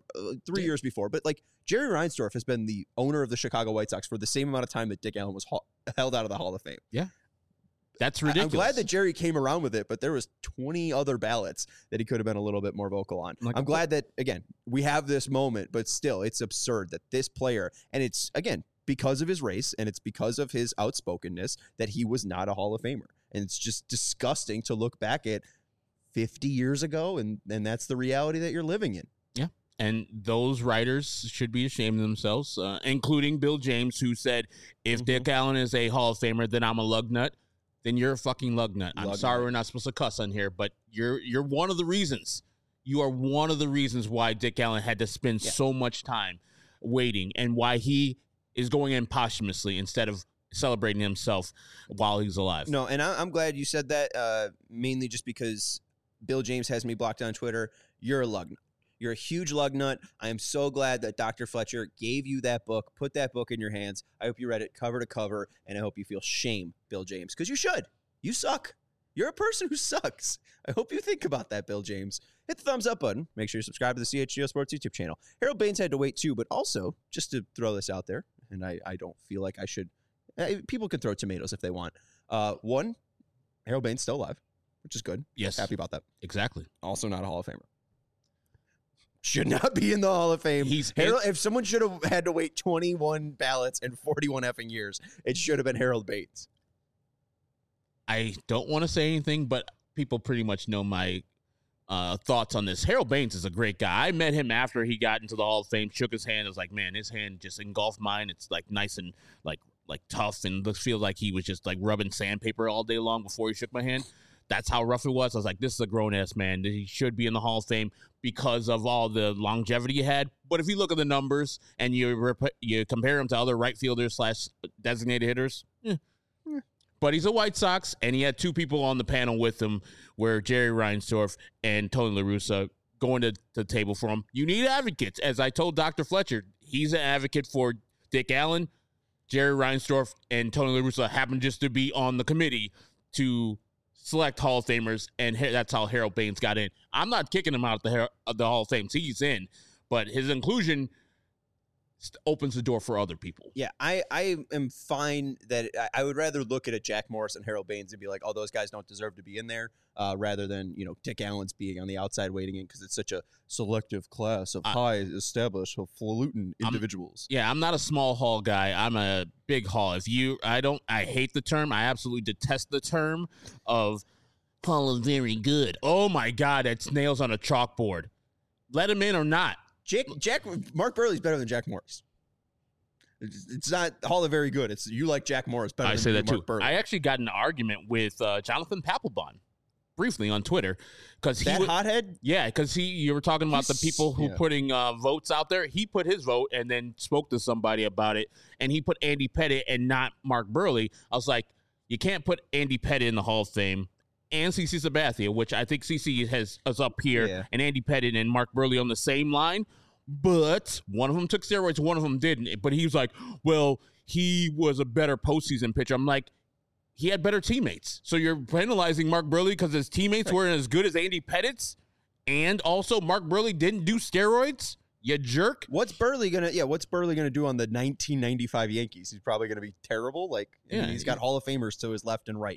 3 years before. But like Jerry Reinsdorf has been the owner of the Chicago White Sox for the same amount of time that Dick Allen was held out of the Hall of Fame. Yeah. That's ridiculous. I'm glad that Jerry came around with it, but there was 20 other ballots that he could have been a little bit more vocal on. I'm glad that, again, we have this moment, but still, it's absurd that this player, and it's, again, because of his race, and it's because of his outspokenness, that he was not a Hall of Famer. And it's just disgusting to look back at 50 years ago, and that's the reality that you're living in. Yeah. And those writers should be ashamed of themselves, including Bill James, who said, if Dick Allen is a Hall of Famer, then I'm a lug nut. Then you're a fucking lug nut. I'm sorry we're not supposed to cuss on here, but you're one of the reasons. You are one of the reasons why Dick Allen had to spend so much time waiting, and why he is going in posthumously instead of celebrating himself while he's alive. No, and I'm glad you said that, mainly just because Bill James has me blocked on Twitter. You're a lug nut. You're a huge lug nut. I am so glad that Dr. Fletcher gave you that book, put that book in your hands. I hope you read it cover to cover, and I hope you feel shame, Bill James, because you should. You suck. You're a person who sucks. I hope you think about that, Bill James. Hit the thumbs up button. Make sure you subscribe to the CHGO Sports YouTube channel. Harold Baines had to wait too, but also, just to throw this out there, and I don't feel like I should. People can throw tomatoes if they want. One, Harold Baines still alive, which is good. Yes. Happy about that. Exactly. Also not a Hall of Famer. Should not be in the Hall of Fame. If someone should have had to wait 21 ballots and 41 effing years, it should have been Harold Baines. I don't want to say anything, but people pretty much know my thoughts on this. Harold Baines is a great guy. I met him after he got into the Hall of Fame, shook his hand. I was like, man, his hand just engulfed mine. It's like nice and like tough, and feels like he was just like rubbing sandpaper all day long before he shook my hand. That's how rough it was. I was like, this is a grown-ass man. He should be in the Hall of Fame because of all the longevity he had. But if you look at the numbers and you compare him to other right fielders / designated hitters, But he's a White Sox, and he had two people on the panel with him, where Jerry Reinsdorf and Tony La Russa going to the table for him. You need advocates. As I told Dr. Fletcher, he's an advocate for Dick Allen. Jerry Reinsdorf and Tony La Russa happen just to be on the committee to select Hall of Famers, and that's how Harold Baines got in. I'm not kicking him out of the Hall of Fame. He's in, but his inclusion opens the door for other people. Yeah, I am fine that I would rather look at a Jack Morris and Harold Baines and be like, oh, those guys don't deserve to be in there, rather than, Dick Allen's being on the outside waiting in because it's such a selective class of high established falutin individuals. I'm not a small hall guy. I'm a big hall. I hate the term. I absolutely detest the term of Hall of Very Good. Oh my God, it's nails on a chalkboard. Let him in or not. Mark Buehrle's better than Jack Morris. It's not Hall of Very Good. It's you like Jack Morris better than Mark Buehrle. I actually got in an argument with Jonathan Papelbon briefly on Twitter because he That hothead. Yeah, because you were talking about the people who putting votes out there. He put his vote and then spoke to somebody about it, and he put Andy Pettitte and not Mark Burley. I was like, you can't put Andy Pettitte in the Hall of Fame and CeCe Sabathia, which I think CeCe is up here, and Andy Pettitte and Mark Burley on the same line. But one of them took steroids, one of them didn't. But he was like, well, he was a better postseason pitcher. I'm like, he had better teammates. So you're penalizing Mark Burley because his teammates weren't as good as Andy Pettitte's, and also Mark Burley didn't do steroids? You jerk. What's Burley gonna do on the 1995 Yankees? He's probably gonna be terrible. Like, he's got Hall of Famers to his left and right.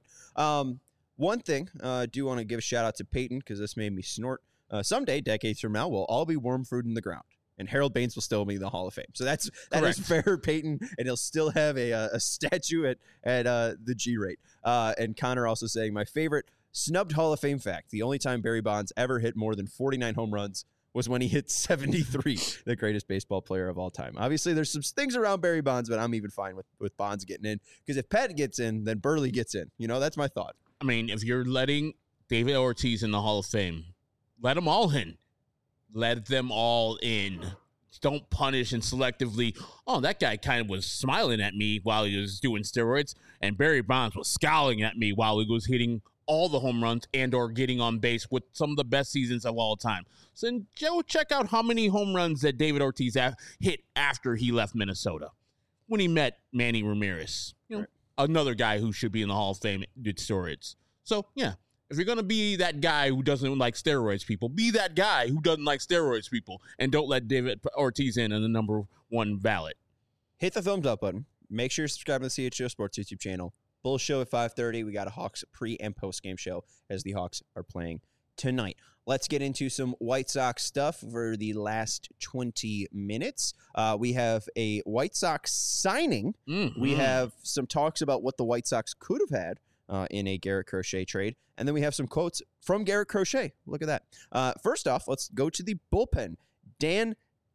One thing, I do want to give a shout out to Peyton because this made me snort. Someday, decades from now, we'll all be worm fruit in the ground, and Harold Baines will still be in the Hall of Fame. So that is fair, Peyton, and he'll still have a statue at the G rate. And Connor also saying, my favorite snubbed Hall of Fame fact: the only time Barry Bonds ever hit more than 49 home runs was when he hit 73, the greatest baseball player of all time. Obviously, there's some things around Barry Bonds, but I'm even fine with Bonds getting in, because if Pettitte gets in, then Burley gets in. That's my thought. I mean, if you're letting David Ortiz in the Hall of Fame, let them all in. Let them all in. Don't punish and selectively, that guy kind of was smiling at me while he was doing steroids, and Barry Bonds was scowling at me while he was hitting all the home runs and or getting on base with some of the best seasons of all time. So then go check out how many home runs that David Ortiz hit after he left Minnesota when he met Manny Ramirez. Another guy who should be in the Hall of Fame did steroids. So, yeah, if you're going to be that guy who doesn't like steroids people, be that guy who doesn't like steroids people, and don't let David Ortiz in the number one ballot. Hit the thumbs up button. Make sure you're subscribed to the CHGO Sports YouTube channel. Bulls show at 5:30. We got a Hawks pre- and post-game show as the Hawks are playing tonight. Let's get into some White Sox stuff for the last 20 minutes. We have a White Sox signing. Mm-hmm. We have some talks about what the White Sox could have had in a Garrett Crochet trade. And then we have some quotes from Garrett Crochet. Look at that. First off, let's go to the bullpen. Dan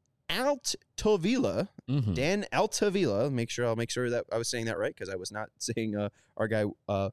Altavilla. Mm-hmm. Dan Altavilla. I'll make sure that I was saying that right, because I was not saying our guy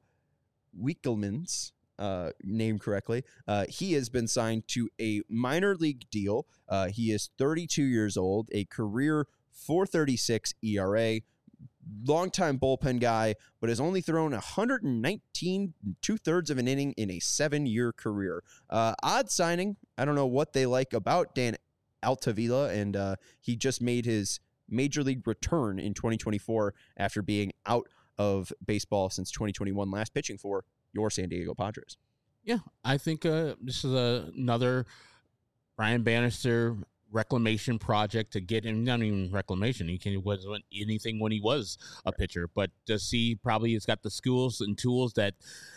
Wickelman's name correctly. He has been signed to a minor league deal. He is 32 years old, a career 4.36 ERA, longtime bullpen guy, but has only thrown 119 2/3 of an inning in a 7-year career. Odd signing. I don't know what they like about Dan Altavilla, and he just made his major league return in 2024 after being out of baseball since 2021, last pitching for your San Diego Padres. Yeah, I think this is another Brian Bannister reclamation project to get him. Not even reclamation. He wasn't anything when he was a pitcher, but to see probably he's got the skills and tools that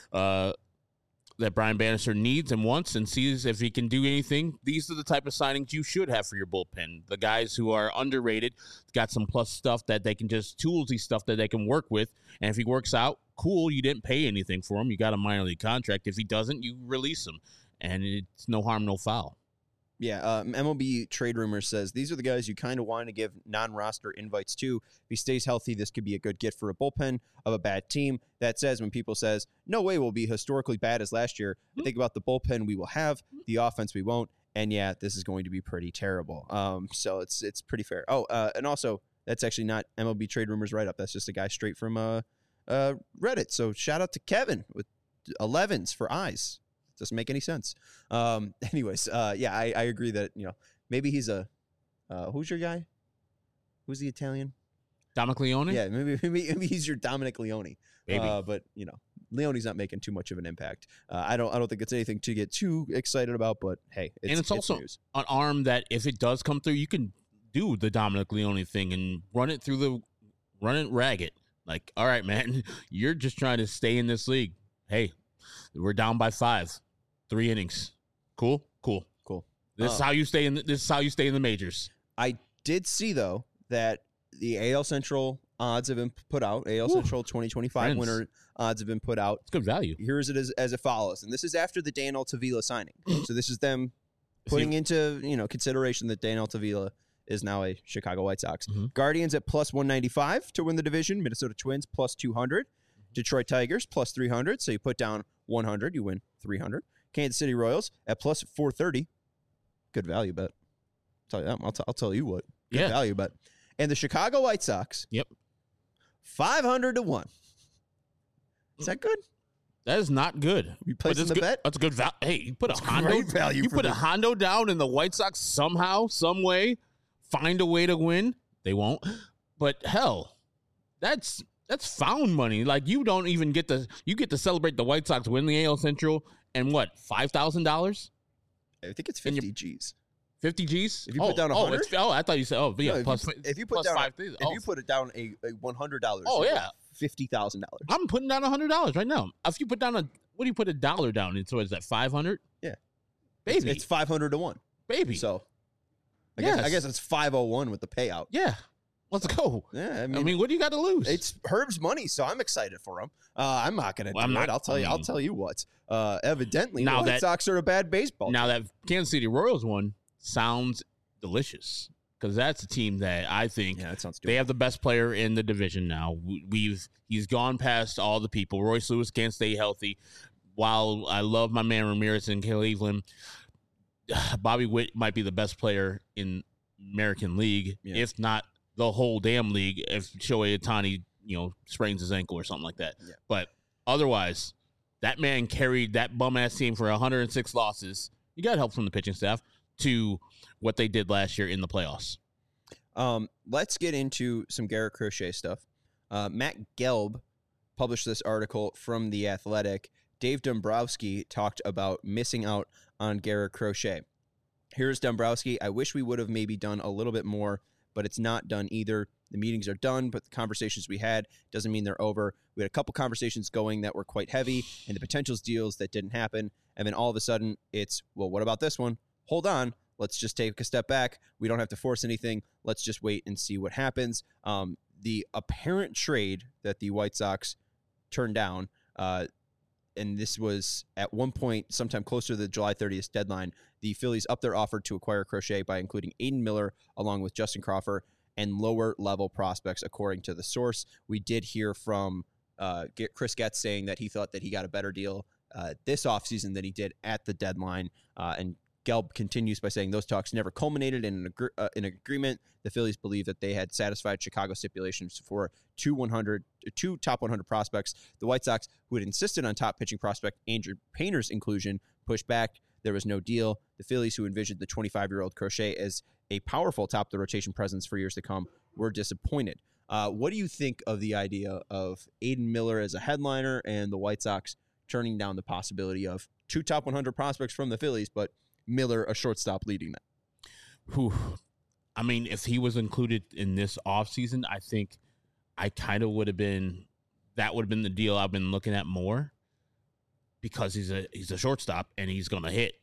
that Brian Bannister needs and wants, and sees if he can do anything. These are the type of signings you should have for your bullpen. The guys who are underrated, got some plus stuff that they can just toolsy stuff that they can work with. And if he works out, cool, you didn't pay anything for him. You got a minor league contract. If he doesn't, you release him. And it's no harm, no foul. Yeah, MLB Trade Rumors says these are the guys you kind of want to give non-roster invites to. If he stays healthy, this could be a good gift for a bullpen of a bad team. That says when people says, no way we'll be historically bad as last year, I think about the bullpen we will have, the offense we won't, and yeah, this is going to be pretty terrible. So it's pretty fair. Oh, and also, that's actually not MLB Trade Rumors write-up. That's just a guy straight from Reddit. So shout out to Kevin with 11s for eyes. Doesn't make any sense. Anyways, yeah, I agree that, maybe he's a who's your guy? Who's the Italian? Dominic Leone? Yeah, maybe he's your Dominic Leone. Maybe. But Leone's not making too much of an impact. I don't think it's anything to get too excited about, but hey, it's also news. An arm that if it does come through, you can do the Dominic Leone thing and run it ragged. Like, all right, man, you're just trying to stay in this league. Hey, we're down by 5. 3 innings. Cool. This is how you stay in the majors. I did see though that the AL Central odds have been put out. AL Central 2025 winner odds have been put out. It's good value. Here's it as it follows, and this is after the Dan Altavilla signing. So this is them putting into consideration that Dan Altavilla is now a Chicago White Sox. Mm-hmm. Guardians at plus 195 to win the division. Minnesota Twins plus 200. Detroit Tigers plus 300. So you put down 100, you win 300. Kansas City Royals at plus 430. Good value bet. I'll tell you what. Good value bet. And the Chicago White Sox. Yep. 500 to 1. Is that good? That is not good. You placing the bet? That's a good value. Hey, you put a Hondo. Great value. You put a Hondo down, and the White Sox somehow, some way, find a way to win. They won't. But hell, that's found money. Like you don't even get to celebrate the White Sox win the AL Central and what, $5,000? I think it's 50 G's. 50 G's? If you put down 100? I thought you said, No, plus, if you put plus down 5,000. if you put it down a $100. Oh, yeah. $50,000. I'm putting down $100 right now. If you put down what do you put a dollar down into? Is that 500? Yeah. Baby. It's 500 to 1. Baby. So I guess it's 501 with the payout. Yeah. Let's go. Yeah, I mean, what do you got to lose? It's Herb's money, so I'm excited for him. I'm not going to do it. I'll tell you what. Evidently, the White Sox are a bad baseball team. Now that Kansas City Royals one sounds delicious because that's a team that I think that sounds they have the best player in the division now. He's gone past all the people. Royce Lewis can't stay healthy. While I love my man Ramirez in Cleveland, Bobby Witt might be the best player in American League, if not the whole damn league, if Shohei Ohtani, sprains his ankle or something like that. Yeah. But otherwise, that man carried that bum-ass team for 106 losses. You got help from the pitching staff to what they did last year in the playoffs. Let's get into some Garrett Crochet stuff. Matt Gelb published this article from The Athletic. Dave Dombrowski talked about missing out on Garrett Crochet. Here's Dombrowski. I wish we would have maybe done a little bit more, but it's not done either. The meetings are done, but the conversations we had doesn't mean they're over. We had a couple conversations going that were quite heavy, and the potentials deals that didn't happen. And then all of a sudden, it's, well, what about this one? Hold on. Let's just take a step back. We don't have to force anything. Let's just wait and see what happens. The apparent trade that the White Sox turned down, and this was at one point, sometime closer to the July 30th deadline, the Phillies upped their offer to acquire Crochet by including Aiden Miller along with Justin Crawford and lower-level prospects, according to the source. We did hear from Chris Getz saying that he thought that he got a better deal this offseason than he did at the deadline. And Gelb continues by saying those talks never culminated in an agreement. The Phillies believe that they had satisfied Chicago stipulations for two top 100 prospects. The White Sox, who had insisted on top pitching prospect Andrew Painter's inclusion, pushed back. There was no deal. The Phillies, who envisioned the 25-year-old Crochet as a powerful top-of-the-rotation presence for years to come, were disappointed. What do you think of the idea of Aiden Miller as a headliner and the White Sox turning down the possibility of two top 100 prospects from the Phillies, but Miller, a shortstop, leading that? Whew. I mean, if he was included in this offseason, I think I kind of would have been the deal I've been looking at more because he's a shortstop and he's going to hit.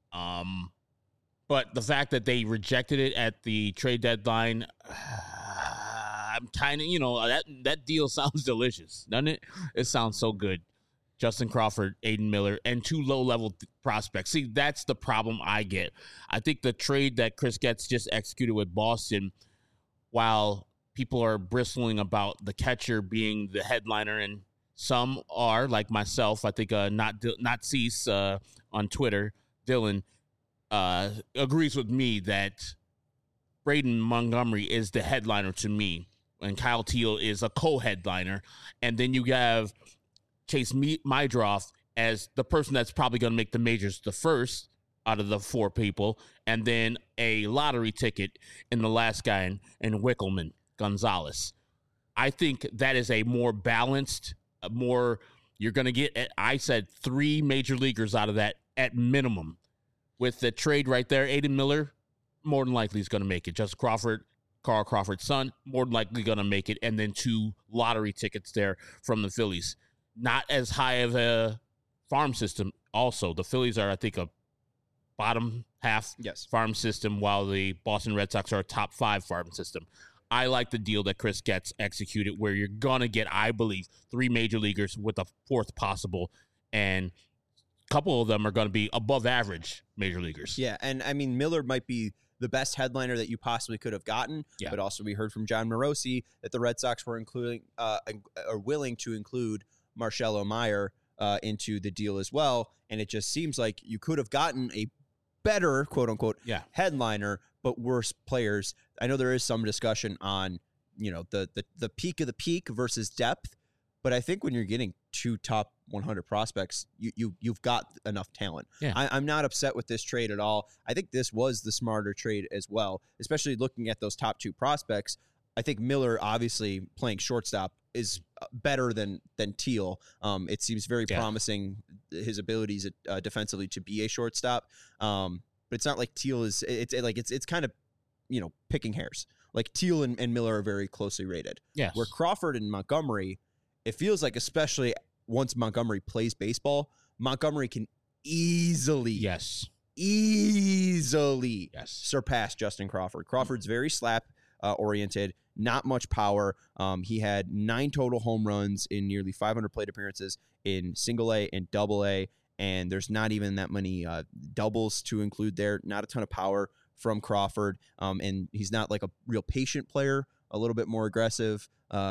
But the fact that they rejected it at the trade deadline, I'm kind of, that deal sounds delicious, doesn't it? It sounds so good. Justin Crawford, Aiden Miller, and two low-level prospects. See, that's the problem I get. I think the trade that Chris Getz just executed with Boston, while people are bristling about the catcher being the headliner, and some are, like myself, I think not Cease on Twitter, Dylan, agrees with me that Braden Montgomery is the headliner to me, and Kyle Teal is a co-headliner. And then you have Chase Mydroff as the person that's probably going to make the majors the first out of the four people, and then a lottery ticket in the last guy in Wickelman Gonzalez. I think that is a more balanced, you're going to get, I said, three major leaguers out of that at minimum. With the trade right there, Aiden Miller, more than likely is going to make it. Justin Crawford, Carl Crawford's son, more than likely going to make it, and then two lottery tickets there from the Phillies. Not as high of a farm system. Also, the Phillies are, I think, a bottom half farm system, while the Boston Red Sox are a top 5 farm system. I like the deal that Chris Getz executed, where you're going to get, I believe, 3 major leaguers with a 4th possible, and a couple of them are going to be above average major leaguers. Yeah, and I mean, Miller might be the best headliner that you possibly could have gotten, but also we heard from John Morosi that the Red Sox were willing to include Marcelo Meyer into the deal as well. And it just seems like you could have gotten a better, quote unquote, headliner, but worse players. I know there is some discussion on, the peak of the peak versus depth, but I think when you're getting 2 top 100 prospects, you've got enough talent. Yeah. I'm not upset with this trade at all. I think this was the smarter trade as well, especially looking at those top 2 prospects. I think Miller, obviously playing shortstop, is better than Teal. It seems very promising, his abilities defensively to be a shortstop. But it's not like Teal is. It's kind of picking hairs. Like Teal and Miller are very closely rated. Yes. Where Crawford and Montgomery, it feels like, especially once Montgomery plays baseball, Montgomery can easily surpass Justin Crawford. Crawford's very slap oriented, not much power. He had 9 total home runs in nearly 500 plate appearances in single A and double A, and there's not even that many doubles to include there. Not a ton of power from Crawford, and he's not like a real patient player, a little bit more aggressive.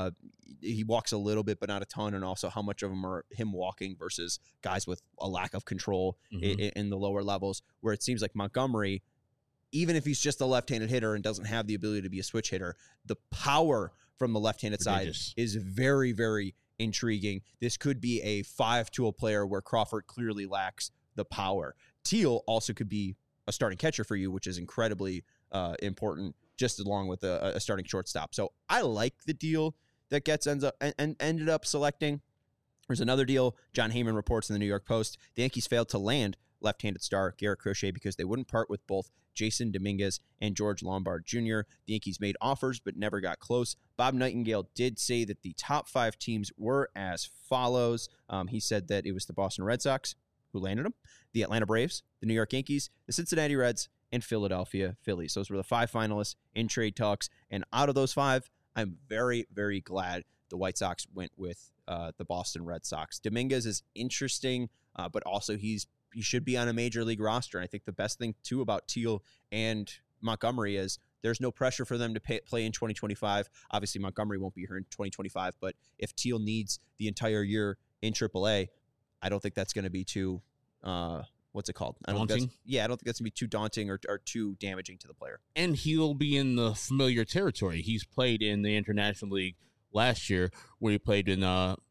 He walks a little bit, but not a ton, and also how much of them are him walking versus guys with a lack of control in the lower levels, where it seems like Montgomery, even if he's just a left-handed hitter and doesn't have the ability to be a switch hitter, the power from the left-handed side is very, very intriguing. This could be a 5-tool player where Crawford clearly lacks the power. Teal also could be a starting catcher for you, which is incredibly important, just along with a starting shortstop. So I like the deal that Getz ended up selecting. There's another deal. John Heyman reports in the New York Post, the Yankees failed to land left-handed star Garrett Crochet because they wouldn't part with both Jason Dominguez and George Lombard Jr. The Yankees made offers but never got close. Bob Nightingale did say that the top 5 teams were as follows. He said that it was the Boston Red Sox who landed them, the Atlanta Braves, the New York Yankees, the Cincinnati Reds, and Philadelphia Phillies. Those were the 5 finalists in trade talks. And out of those 5, I'm very, very glad the White Sox went with the Boston Red Sox. Dominguez is interesting, but also he should be on a major league roster. And I think the best thing, too, about Teal and Montgomery is there's no pressure for them to play in 2025. Obviously, Montgomery won't be here in 2025, but if Teal needs the entire year in AAA, I don't think that's going to be too, what's it called? Daunting? I don't think that's going to be too daunting or too damaging to the player. And he'll be in the familiar territory. He's played in the International League last year, where he played in,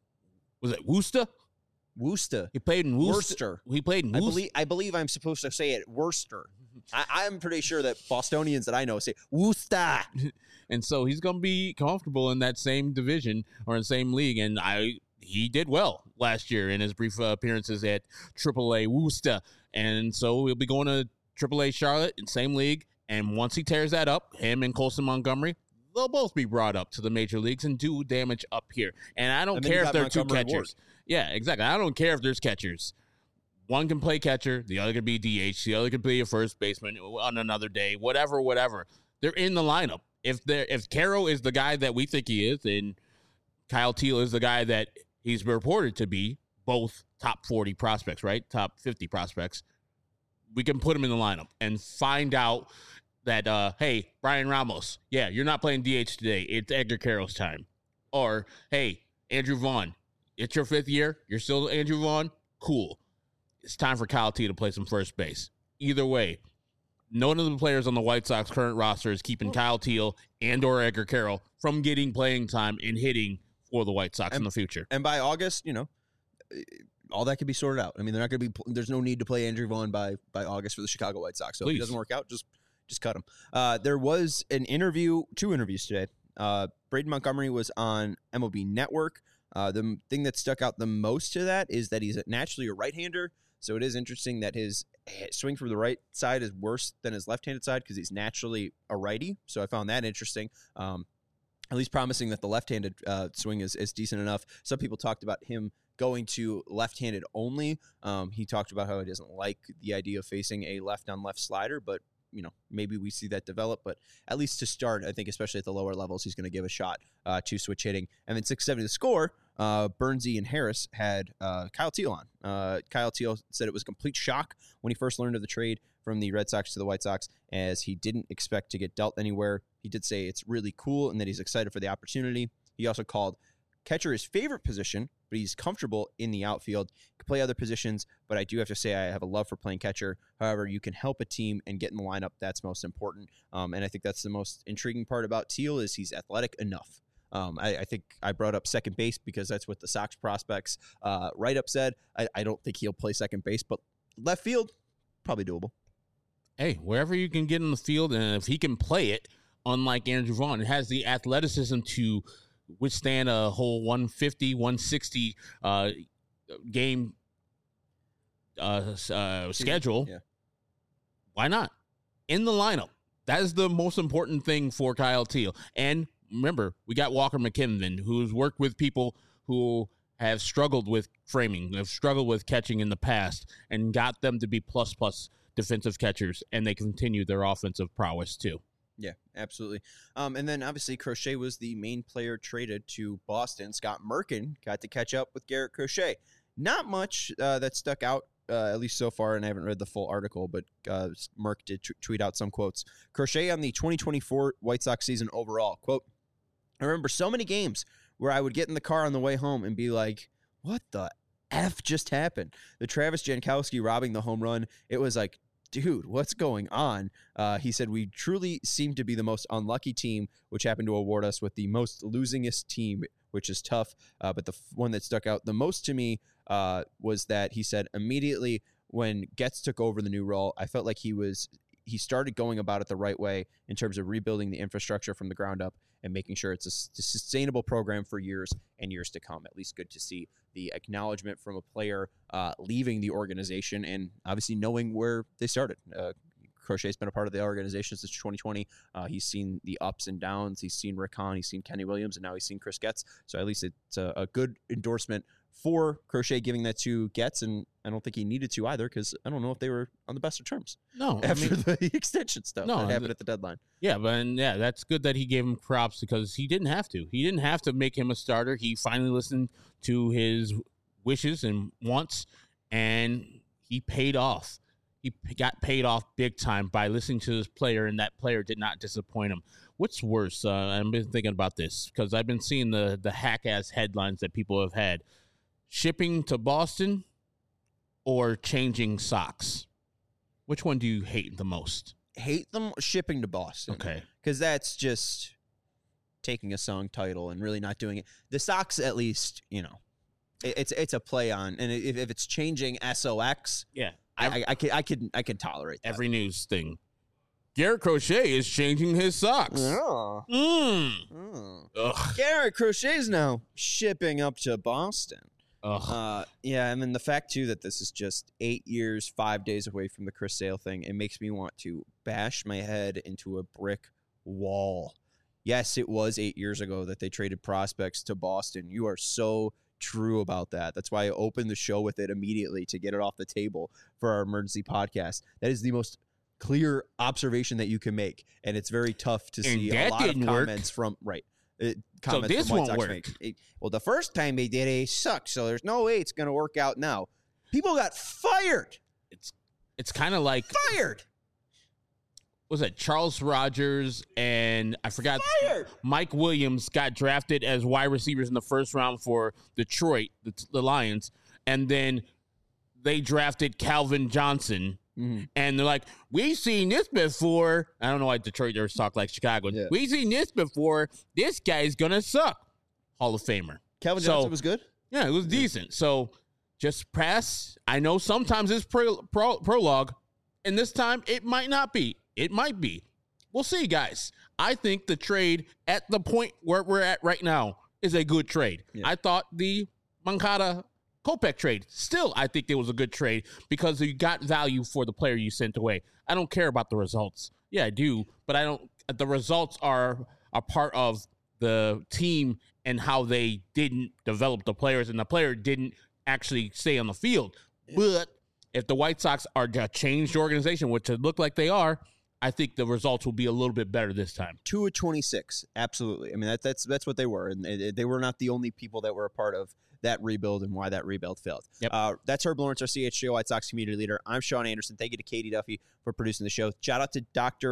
was it Worcester? Worcester. He played in Worcester. He played in Worcester. I believe I'm supposed to say it Worcester. I'm pretty sure that Bostonians that I know say Worcester. And so he's going to be comfortable in that same division or in the same league. And he did well last year in his brief appearances at AAA Worcester. And so we'll be going to AAA Charlotte in same league. And once he tears that up, him and Colson Montgomery, they'll both be brought up to the major leagues and do damage up here. And I don't care if they're 2 catchers. Ward. Yeah, exactly. I don't care if there's catchers. One can play catcher, the other could be DH, the other could be a first baseman on another day, whatever. They're in the lineup. If Caro is the guy that we think he is, and Kyle Teal is the guy that he's reported to be, both top 40 prospects, right? Top 50 prospects, we can put him in the lineup and find out that, hey, Brian Ramos, yeah, you're not playing DH today. It's Edgar Caro's time. Or, hey, Andrew Vaughn, it's your 5th year. You're still Andrew Vaughn. Cool. It's time for Kyle T to play some first base. Either way, none of the players on the White Sox current roster is keeping Kyle Teal and or Edgar Carroll from getting playing time and hitting for the White Sox in the future. And by August, all that could be sorted out. I mean, there's no need to play Andrew Vaughn by August for the Chicago White Sox. So if he doesn't work out, just cut him. There was 2 interviews today. Braden Montgomery was on MLB Network. The thing that stuck out the most to that is that he's naturally a right-hander. So it is interesting that his swing from the right side is worse than his left-handed side because he's naturally a righty. So I found that interesting. At least promising that the left-handed swing is decent enough. Some people talked about him going to left-handed only. He talked about how he doesn't like the idea of facing a left-on-left slider, but maybe we see that develop. But at least to start, I think especially at the lower levels, he's going to give a shot to switch hitting. And then 670 to score, Bernsey and Harris had Kyle Teal on. Kyle Teal said it was a complete shock when he first learned of the trade from the Red Sox to the White Sox, as he didn't expect to get dealt anywhere. He did say it's really cool and that he's excited for the opportunity. He also called catcher his favorite position, but he's comfortable in the outfield. He can play other positions, but I do have to say I have a love for playing catcher. However, you can help a team and get in the lineup. That's most important. And I think that's the most intriguing part about Teal is he's athletic enough. I think I brought up second base because that's what the Sox prospects write-up said. I don't think he'll play second base, but left field, probably doable. Hey, wherever you can get in the field, and if he can play it, unlike Andrew Vaughn, it has the athleticism to withstand a whole 150, 160 game schedule. Yeah. Why not? In the lineup. That is the most important thing for Kyle Teal. And remember, we got Walker McKinnon, who's worked with people who have struggled with framing, have struggled with catching in the past, and got them to be plus defensive catchers, and they continue their offensive prowess too. Yeah, absolutely. And then obviously Crochet was the main player traded to Boston. Scott Merkin got to catch up with Garrett Crochet. Not much that stuck out, at least so far, and I haven't read the full article, but Merck did tweet out some quotes. Crochet on the 2024 White Sox season overall, quote, I remember so many games where I would get in the car on the way home and be like, what the F just happened? The Travis Jankowski robbing the home run, it was like, dude, what's going on? He said, we truly seem to be the most unlucky team, which happened to award us with the most losingest team, which is tough. But the one that stuck out the most to me was that he said immediately when Getz took over the new role, I felt like he started going about it the right way in terms of rebuilding the infrastructure from the ground up and making sure it's a sustainable program for years and years to come. At least good to see the acknowledgement from a player leaving the organization and obviously knowing where they started. Crochet's been a part of the organization since 2020. He's seen the ups and downs. He's seen Rick Hahn. He's seen Kenny Williams, and now he's seen Chris Getz. So at least it's a good endorsement for Crochet giving that to Getz, and I don't think he needed to either because I don't know if they were on the best of terms. No, after the extension stuff that happened at the deadline. Yeah, that's good that he gave him props because he didn't have to. He didn't have to make him a starter. He finally listened to his wishes and wants, and he paid off. He got paid off big time by listening to this player, and that player did not disappoint him. What's worse? I've been thinking about this because I've been seeing the hack-ass headlines that people have had. Shipping to Boston or changing socks? Which one do you hate the most? Hate them shipping to Boston. Okay. Because that's just taking a song title and really not doing it. The Sox, at least, it's a play on. And if it's changing SOX, yeah, I can tolerate that. Every news thing. Garrett Crochet is changing his socks. Garrett Crochet's now shipping up to Boston. Yeah, and then the fact, too, that this is just 8 years, 5 days away from the Chris Sale thing, it makes me want to bash my head into a brick wall. Yes, it was 8 years ago that they traded prospects to Boston. You are so true about that. That's why I opened the show with it immediately to get it off the table for our emergency podcast. That is the most clear observation that you can make, and it's very tough to see a lot of comments from so this won't work. Well, the first time they did it sucked, so there's no way it's going to work out now. People got fired. It's kind of like fired. Was it Charles Rogers and I forgot Mike Williams got drafted as wide receivers in the first round for Detroit, the Lions, and then they drafted Calvin Johnson. Mm-hmm. And they're like, we've seen this before. I don't know why Detroiters talk like Chicago. Yeah. We've seen this before. This guy's going to suck. Hall of Famer. Calvin Johnson was good? Yeah, it was decent. So just press. I know sometimes it's prologue, and this time it might not be. It might be. We'll see, guys. I think the trade at the point where we're at right now is a good trade. Yeah. I thought the Moncada Kopech trade, still, I think it was a good trade because you got value for the player you sent away. I don't care about the results. Yeah, I do, but I don't. The results are a part of the team and how they didn't develop the players, and the player didn't actually stay on the field. Yeah. But if the White Sox are a changed organization, which it look like they are, I think the results will be a little bit better this time. 2 of 26, absolutely. I mean, that's what they were, and they were not the only people that were a part of that rebuild and why that rebuild failed. Yep. That's Herb Lawrence, our CHGO White Sox community leader. I'm Sean Anderson. Thank you to Katie Duffy for producing the show. Shout out to Dr.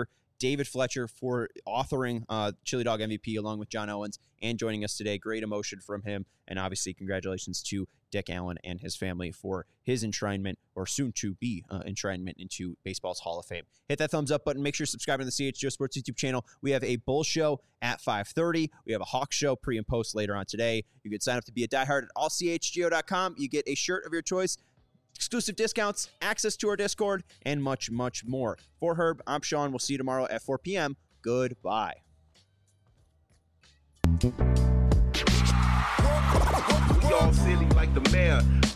David Fletcher for authoring Chili Dog MVP along with John Owens and joining us today. Great emotion from him. And obviously, congratulations to Dick Allen and his family for his enshrinement, or soon to be enshrinement, into baseball's Hall of Fame. Hit that thumbs up button. Make sure you're subscribing to the CHGO Sports YouTube channel. We have a Bull show at 5:30. We have a Hawk show pre and post later on today. You can sign up to be a diehard at allchgo.com. You get a shirt of your choice, exclusive discounts, access to our Discord, and much, much more. For Herb, I'm Sean. We'll see you tomorrow at 4 p.m. Goodbye. We all silly like the mayor.